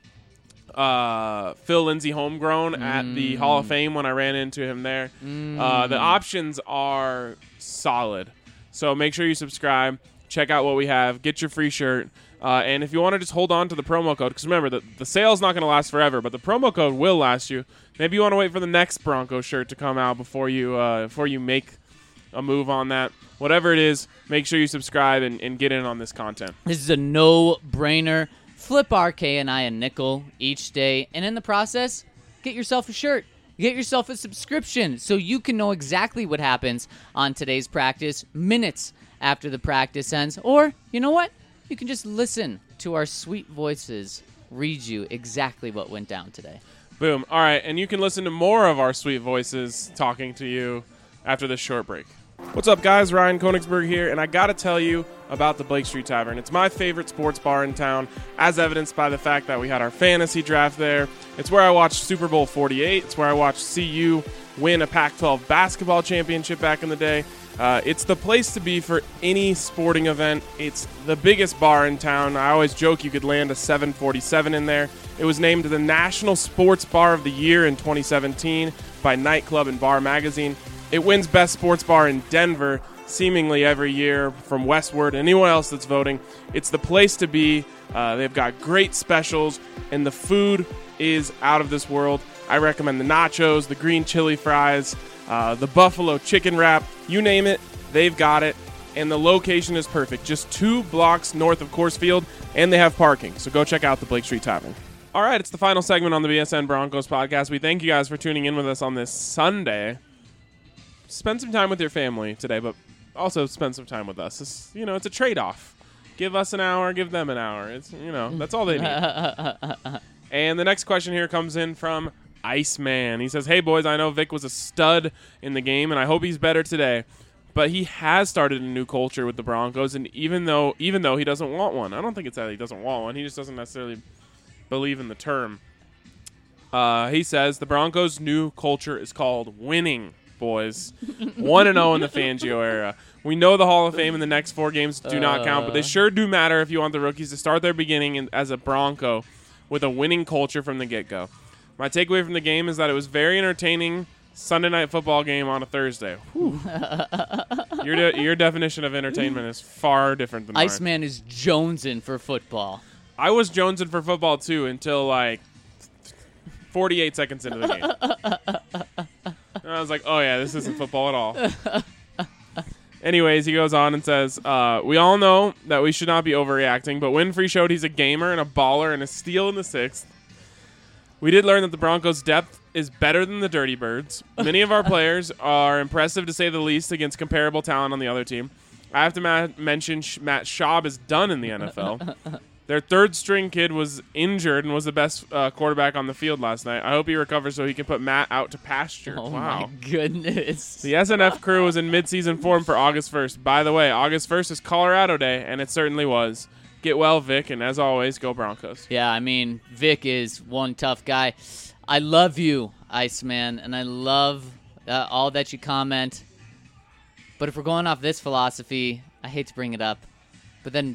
Phil Lindsay homegrown at the Hall of Fame when I ran into him there. The options are solid. So make sure you subscribe. Check out what we have. Get your free shirt. And if you want to just hold on to the promo code, because remember, the sale's not going to last forever, but the promo code will last you. Maybe you want to wait for the next Bronco shirt to come out before you make a move on that. Whatever it is, make sure you subscribe and get in on this content. This is a no-brainer. Flip RK and I a nickel each day, and in the process, get yourself a shirt. Get yourself a subscription so you can know exactly what happens on today's practice minutes after the practice ends. Or, you know what? You can just listen to our sweet voices read you exactly what went down today. Boom. All right, and you can listen to more of our sweet voices talking to you after this short break. What's up, guys? Ryan Koenigsberg here, and I got to tell you about the Blake Street Tavern. It's my favorite sports bar in town, as evidenced by the fact that we had our fantasy draft there. It's where I watched Super Bowl 48. It's where I watched CU win a Pac-12 basketball championship back in the day. It's the place to be for any sporting event. It's the biggest bar in town. I always joke you could land a 747 in there. It was named the National Sports Bar of the Year in 2017 by Nightclub and Bar Magazine. It wins Best Sports Bar in Denver seemingly every year from Westward and anyone else that's voting. It's the place to be. They've got great specials, and the food is out of this world. I recommend the nachos, the green chili fries, the buffalo chicken wrap. You name it, they've got it. And the location is perfect. Just 2 blocks north of Coors Field, and they have parking. So go check out the Blake Street Tavern. All right, it's the final segment on the BSN Broncos podcast. We thank you guys for tuning in with us on this Sunday. Spend some time with your family today, but also spend some time with us. It's a trade-off. Give us an hour, give them an hour. That's all they need. And the next question here comes in from Iceman. He says, "Hey, boys, I know Vic was a stud in the game, and I hope he's better today. But he has started a new culture with the Broncos, and even though he doesn't want one, I don't think it's that he doesn't want one. He just doesn't necessarily believe in the term. He says, the Broncos' new culture is called winning, boys. 1-0 in the Fangio era. We know the Hall of Fame in the next 4 games do not count, but they sure do matter if you want the rookies to start their beginning as a Bronco with a winning culture from the get-go. My takeaway from the game is that it was very entertaining Sunday night football game on a Thursday. Your definition of entertainment is far different than mine. Iceman is jonesing for football. I was jonesing for football, too, until, 48 seconds into the game. And I was like, oh, yeah, this isn't football at all. Anyways, he goes on and says, we all know that we should not be overreacting, but Winfrey showed he's a gamer and a baller and a steal in the 6th. We did learn that the Broncos' depth is better than the Dirty Birds. Many of our players are impressive, to say the least, against comparable talent on the other team. I have to mention Matt Schaub is done in the NFL. Their third-string kid was injured and was the best quarterback on the field last night. I hope he recovers so he can put Matt out to pasture. Oh, wow. my goodness. The SNF crew was in midseason form for August 1st. By the way, August 1st is Colorado Day, and it certainly was. Get well, Vic, and as always, go Broncos. Yeah, I mean, Vic is one tough guy. I love you, Iceman, and I love all that you comment. But if we're going off this philosophy, I hate to bring it up, but then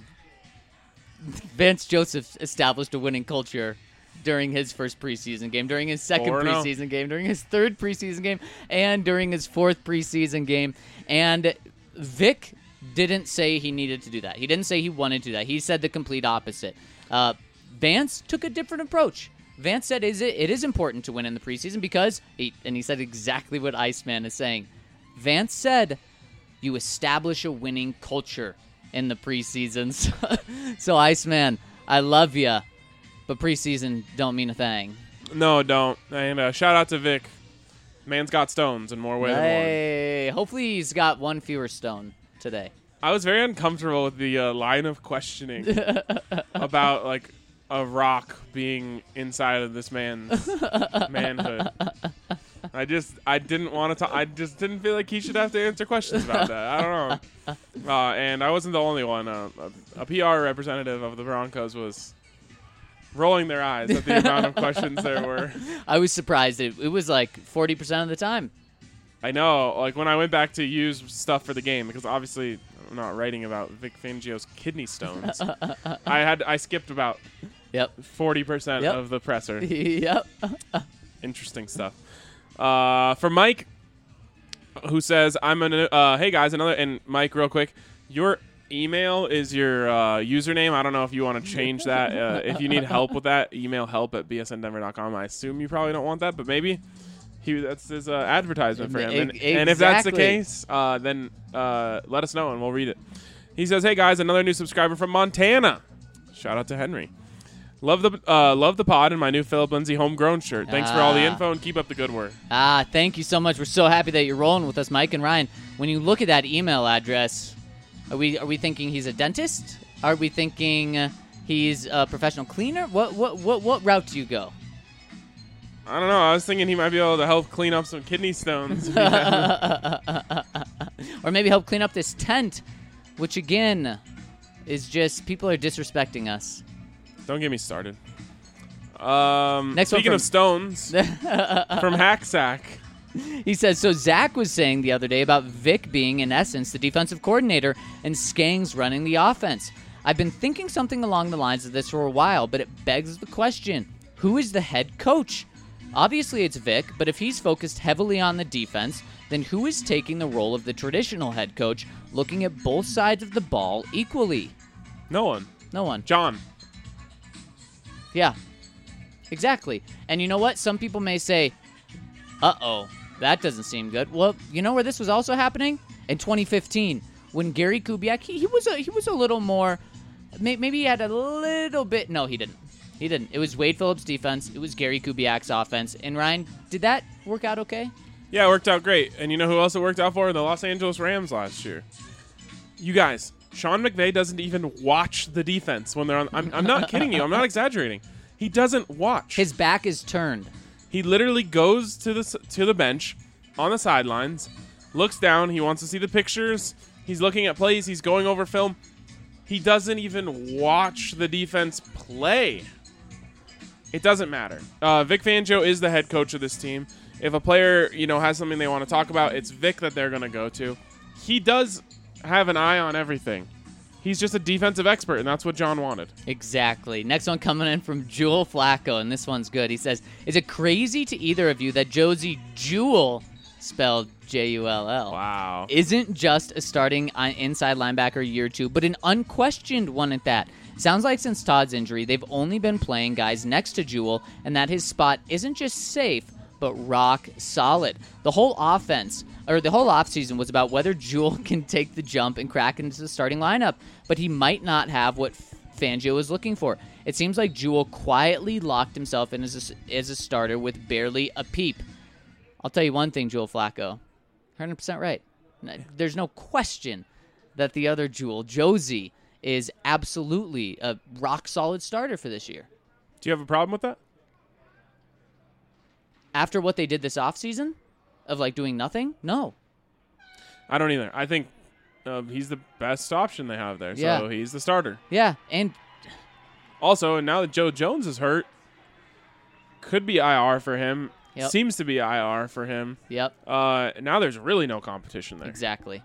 Vance Joseph established a winning culture during his first preseason game, during his second preseason game, during his third preseason game, and during his fourth preseason game. And Vic didn't say he needed to do that. He didn't say he wanted to do that. He said the complete opposite. Vance took a different approach. Vance said it is important to win in the preseason because, and he said exactly what Iceman is saying. Vance said you establish a winning culture in the preseason. So Iceman, I love you, but preseason don't mean a thing. No, don't. And shout out to Vic. Man's got stones in more ways than one. Hey, hopefully he's got one fewer stone today. I was very uncomfortable with the line of questioning about a rock being inside of this man's manhood. I didn't want to. I just didn't feel like he should have to answer questions about that. I don't know. And I wasn't the only one. A PR representative of the Broncos was rolling their eyes at the amount of questions there were. I was surprised. It was 40% of the time. I know. When I went back to use stuff for the game, because obviously not writing about Vic Fangio's kidney stones. I skipped about 40% Yep. of the presser. Yep. Interesting stuff. For Mike, who says, hey guys, and Mike, real quick, your email is your username. I don't know if you want to change that. If you need help with that, email help@bsndenver.com. I assume you probably don't want that, but maybe that's his advertisement for him. And if that's the case, then let us know and we'll read it. He says, hey guys, another new subscriber from Montana. Shout out to Henry. Love the pod and my new Philip Lindsay homegrown shirt. Thanks for all the info and keep up the good work. Thank you so much. We're so happy that you're rolling with us, Mike and Ryan. When you look at that email address, are we thinking he's a dentist? Are we thinking he's a professional cleaner? What route do you go? I don't know. I was thinking he might be able to help clean up some kidney stones. Or maybe help clean up this tent, which again is just people are disrespecting us. Don't get me started. Speaking of stones, from Hacksack. He says, so Zach was saying the other day about Vic being, in essence, the defensive coordinator and Skangs running the offense. I've been thinking something along the lines of this for a while, but it begs the question, who is the head coach? Obviously it's Vic, but if he's focused heavily on the defense, then who is taking the role of the traditional head coach, looking at both sides of the ball equally? No one. John. Yeah, exactly. And you know what? Some people may say, uh-oh, that doesn't seem good. Well, you know where this was also happening? In 2015, when Gary Kubiak, he was a little more, maybe he had a little bit, no, he didn't. It was Wade Phillips' defense. It was Gary Kubiak's offense. And Ryan, did that work out okay? Yeah, it worked out great. And you know who else it worked out for? The Los Angeles Rams last year. You guys, Sean McVay doesn't even watch the defense when they're on. I'm not kidding you. I'm not exaggerating. He doesn't watch. His back is turned. He literally goes to the bench on the sidelines, looks down. He wants to see the pictures. He's looking at plays. He's going over film. He doesn't even watch the defense play. It doesn't matter. Vic Fangio is the head coach of this team. If a player, has something they want to talk about, it's Vic that they're going to go to. He does have an eye on everything. He's just a defensive expert, and that's what John wanted. Exactly. Next one coming in from Jewel Flacco, and this one's good. He says, is it crazy to either of you that Josie Jewell, spelled Jull, wow, isn't just a starting inside linebacker year two, but an unquestioned one at that? Sounds like since Todd's injury, they've only been playing guys next to Jewell, and that his spot isn't just safe, but rock solid. The whole offseason was about whether Jewell can take the jump and crack into the starting lineup, but he might not have what Fangio is looking for. It seems like Jewell quietly locked himself in as a starter with barely a peep. I'll tell you one thing, Jewel Flacco, 100% right. There's no question that the other Jewell, Josie, is absolutely a rock-solid starter for this year. Do you have a problem with that? After what they did this offseason, of doing nothing? No. I don't either. I think he's the best option they have there, so Yeah. he's the starter. Yeah, and Also, now that Joe Jones is hurt, could be IR for him. Yep. Seems to be IR for him. Yep. Now there's really no competition there. Exactly.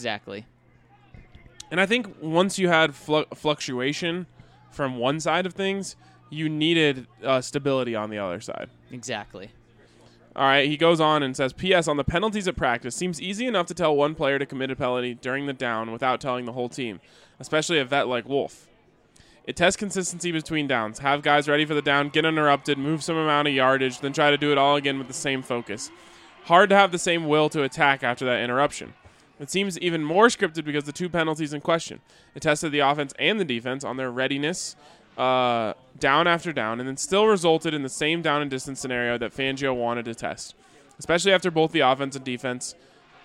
And I think once you had fluctuation from one side of things, you needed stability on the other side. Exactly. All right, he goes on and says, P.S. on the penalties at practice, seems easy enough to tell one player to commit a penalty during the down without telling the whole team, especially a vet like Wolf. It tests consistency between downs. Have guys ready for the down, get interrupted, move some amount of yardage, then try to do it all again with the same focus. Hard to have the same will to attack after that interruption. It seems even more scripted because the two penalties in question. It tested the offense and the defense on their readiness down after down, and then still resulted in the same down and distance scenario that Fangio wanted to test, especially after both the offense and defense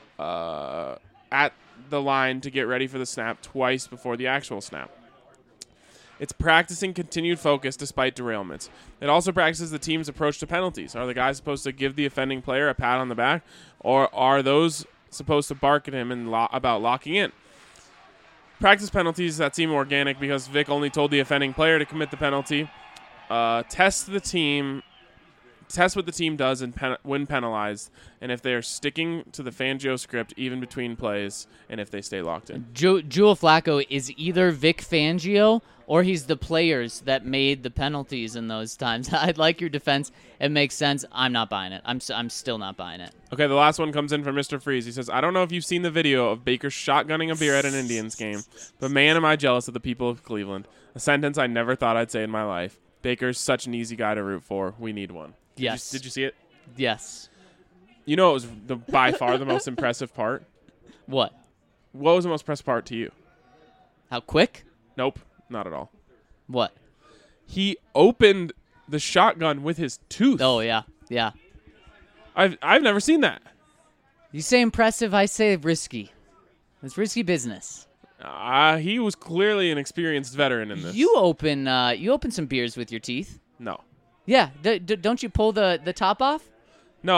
at the line to get ready for the snap twice before the actual snap. It's practicing continued focus despite derailments. It also practices the team's approach to penalties. Are the guys supposed to give the offending player a pat on the back, or are those supposed to bark at him and about locking in? Practice penalties that seem organic because Vic only told the offending player to commit the penalty. Test the team test what the team does and when penalized, and if they are sticking to the Fangio script even between plays, and if they stay locked in. Joe Flacco is either Vic Fangio or he's the players that made the penalties in those times. I like your defense. It makes sense. I'm not buying it. I'm still not buying it. Okay, the last one comes in from Mr. Freeze. He says, I don't know if you've seen the video of Baker shotgunning a beer at an Indians game, but man, am I jealous of the people of Cleveland. A sentence I never thought I'd say in my life. Baker's such an easy guy to root for. We need one. Yes. Did you see it? Yes. You know, it was by far the most impressive part. What? What was the most impressive part to you? How quick? Nope, not at all. What? He opened the shotgun with his tooth. Oh, yeah. Yeah. I've never seen that. You say impressive, I say risky. It's risky business. He was clearly an experienced veteran in this. You open some beers with your teeth. No. Yeah. Don't you pull the top off? No,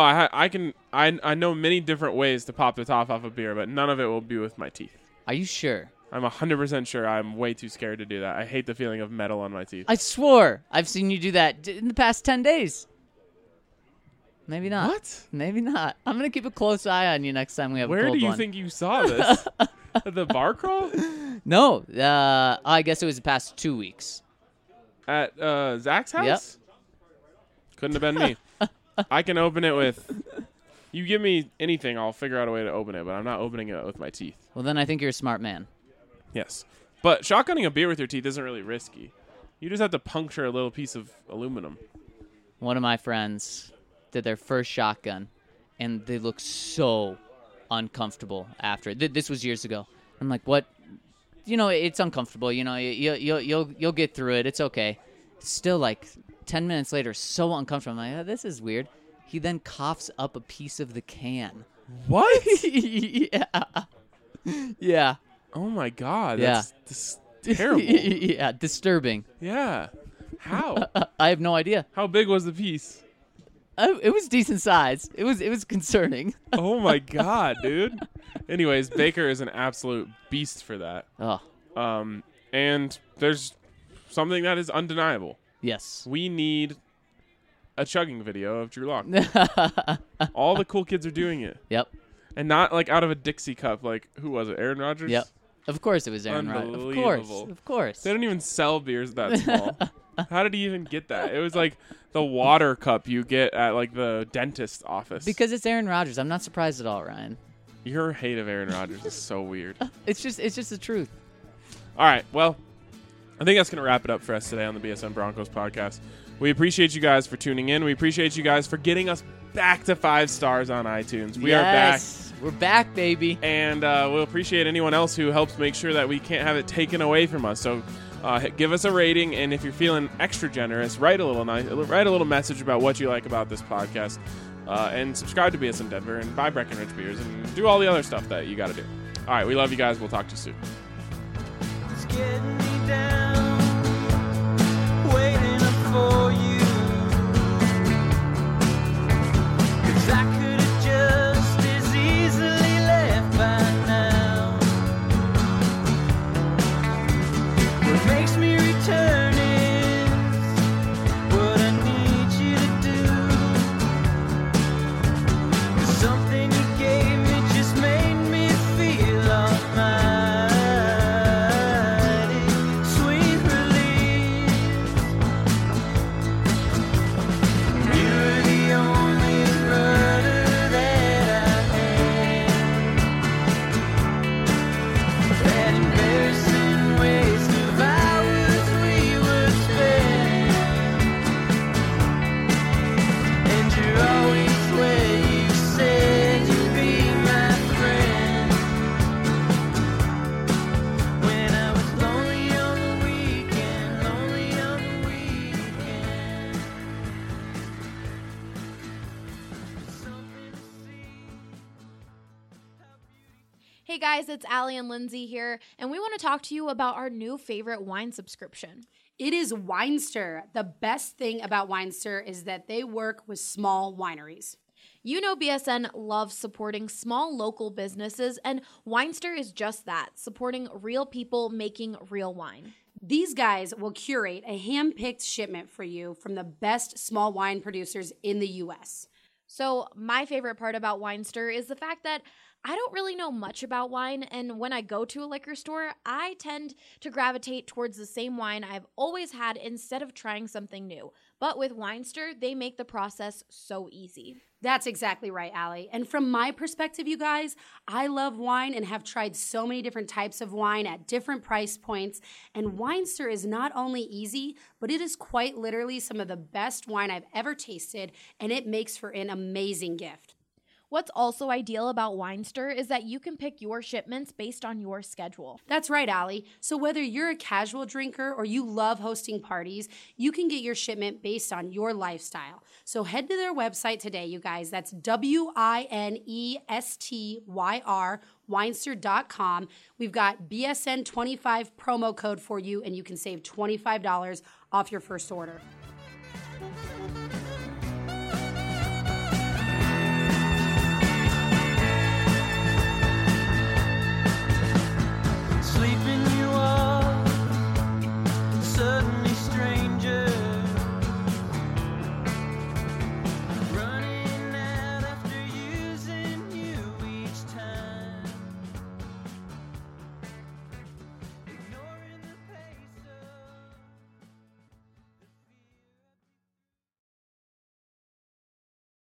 I know many different ways to pop the top off a beer, but none of it will be with my teeth. Are you sure? I'm 100% sure. I'm way too scared to do that. I hate the feeling of metal on my teeth. I swore I've seen you do that in the past 10 days. Maybe not. What? Maybe not. I'm going to keep a close eye on you next time we have a Where cold do you one. think you saw this? At the bar crawl? No. I guess it was the past 2 weeks. At Zach's house? Yep. Couldn't have been me. I can open it with... You give me anything, I'll figure out a way to open it, but I'm not opening it with my teeth. Well, then I think you're a smart man. Yes. But shotgunning a beer with your teeth isn't really risky. You just have to puncture a little piece of aluminum. One of my friends did their first shotgun, and they looked so uncomfortable after. This was years ago. I'm like, what? You know, it's uncomfortable. You know, you'll get through it. It's okay. Still, like 10 minutes later, so uncomfortable. I'm like, oh, this is weird. He then coughs up a piece of the can. What? Yeah. Yeah. Oh my God. Yeah. That's terrible. Yeah, disturbing. Yeah. How? I have no idea. How big was the piece? It was decent size. It was concerning. Oh my God, dude. Anyways, Baker is an absolute beast for that. Oh, And there's something that is undeniable. yes. We need a chugging video of Drew Lock. All the cool kids are doing it. Yep. And not like out of a Dixie cup. Like, who was it? Aaron Rodgers? Yep. Of course it was Aaron Rodgers. Of course. They don't even sell beers that small. How did he even get that? It was like the water cup you get at like the dentist's office. Because it's Aaron Rodgers. I'm not surprised at all, Ryan. Your hate of Aaron Rodgers is so weird. It's just the truth. All right, well, I think that's going to wrap it up for us today on the BSN Broncos podcast. We appreciate you guys for tuning in. We appreciate you guys for getting us back to 5 stars on iTunes. We are back. We're back, baby. And we'll appreciate anyone else who helps make sure that we can't have it taken away from us. So give us a rating, and if you're feeling extra generous, write a little message about what you like about this podcast, and subscribe to BSN Denver, and buy Breckenridge beers, and do all the other stuff that you got to do. All right, we love you guys. We'll talk to you soon. It's getting me down, waiting up for you. 'Cause I could have just as easily left by now. What makes me return is what I need you to do. 'Cause something you gave me just made me feel almighty. Sweet relief. You were the only brother that I had. That embarrassing waste of hours we would spend. And you're always where you said you'd be my friend. When I was lonely on the weekend, lonely on the weekend. Something to see. Hey guys, it's Allie and Lindsay here, and we want to talk to you about our new favorite wine subscription. It is Winester. The best thing about Winester is that they work with small wineries. You know BSN loves supporting small local businesses, and Winester is just that, supporting real people making real wine. These guys will curate a hand-picked shipment for you from the best small wine producers in the U.S. So, my favorite part about Winester is the fact that I don't really know much about wine, and when I go to a liquor store, I tend to gravitate towards the same wine I've always had instead of trying something new. But with Winester, they make the process so easy. That's exactly right, Allie. And from my perspective, you guys, I love wine and have tried so many different types of wine at different price points. And Winester is not only easy, but it is quite literally some of the best wine I've ever tasted, and it makes for an amazing gift. What's also ideal about Winester is that you can pick your shipments based on your schedule. That's right, Allie. So whether you're a casual drinker or you love hosting parties, you can get your shipment based on your lifestyle. So head to their website today, you guys. That's WINESTYR, Winester.com. We've got BSN25 promo code for you, and you can save $25 off your first order.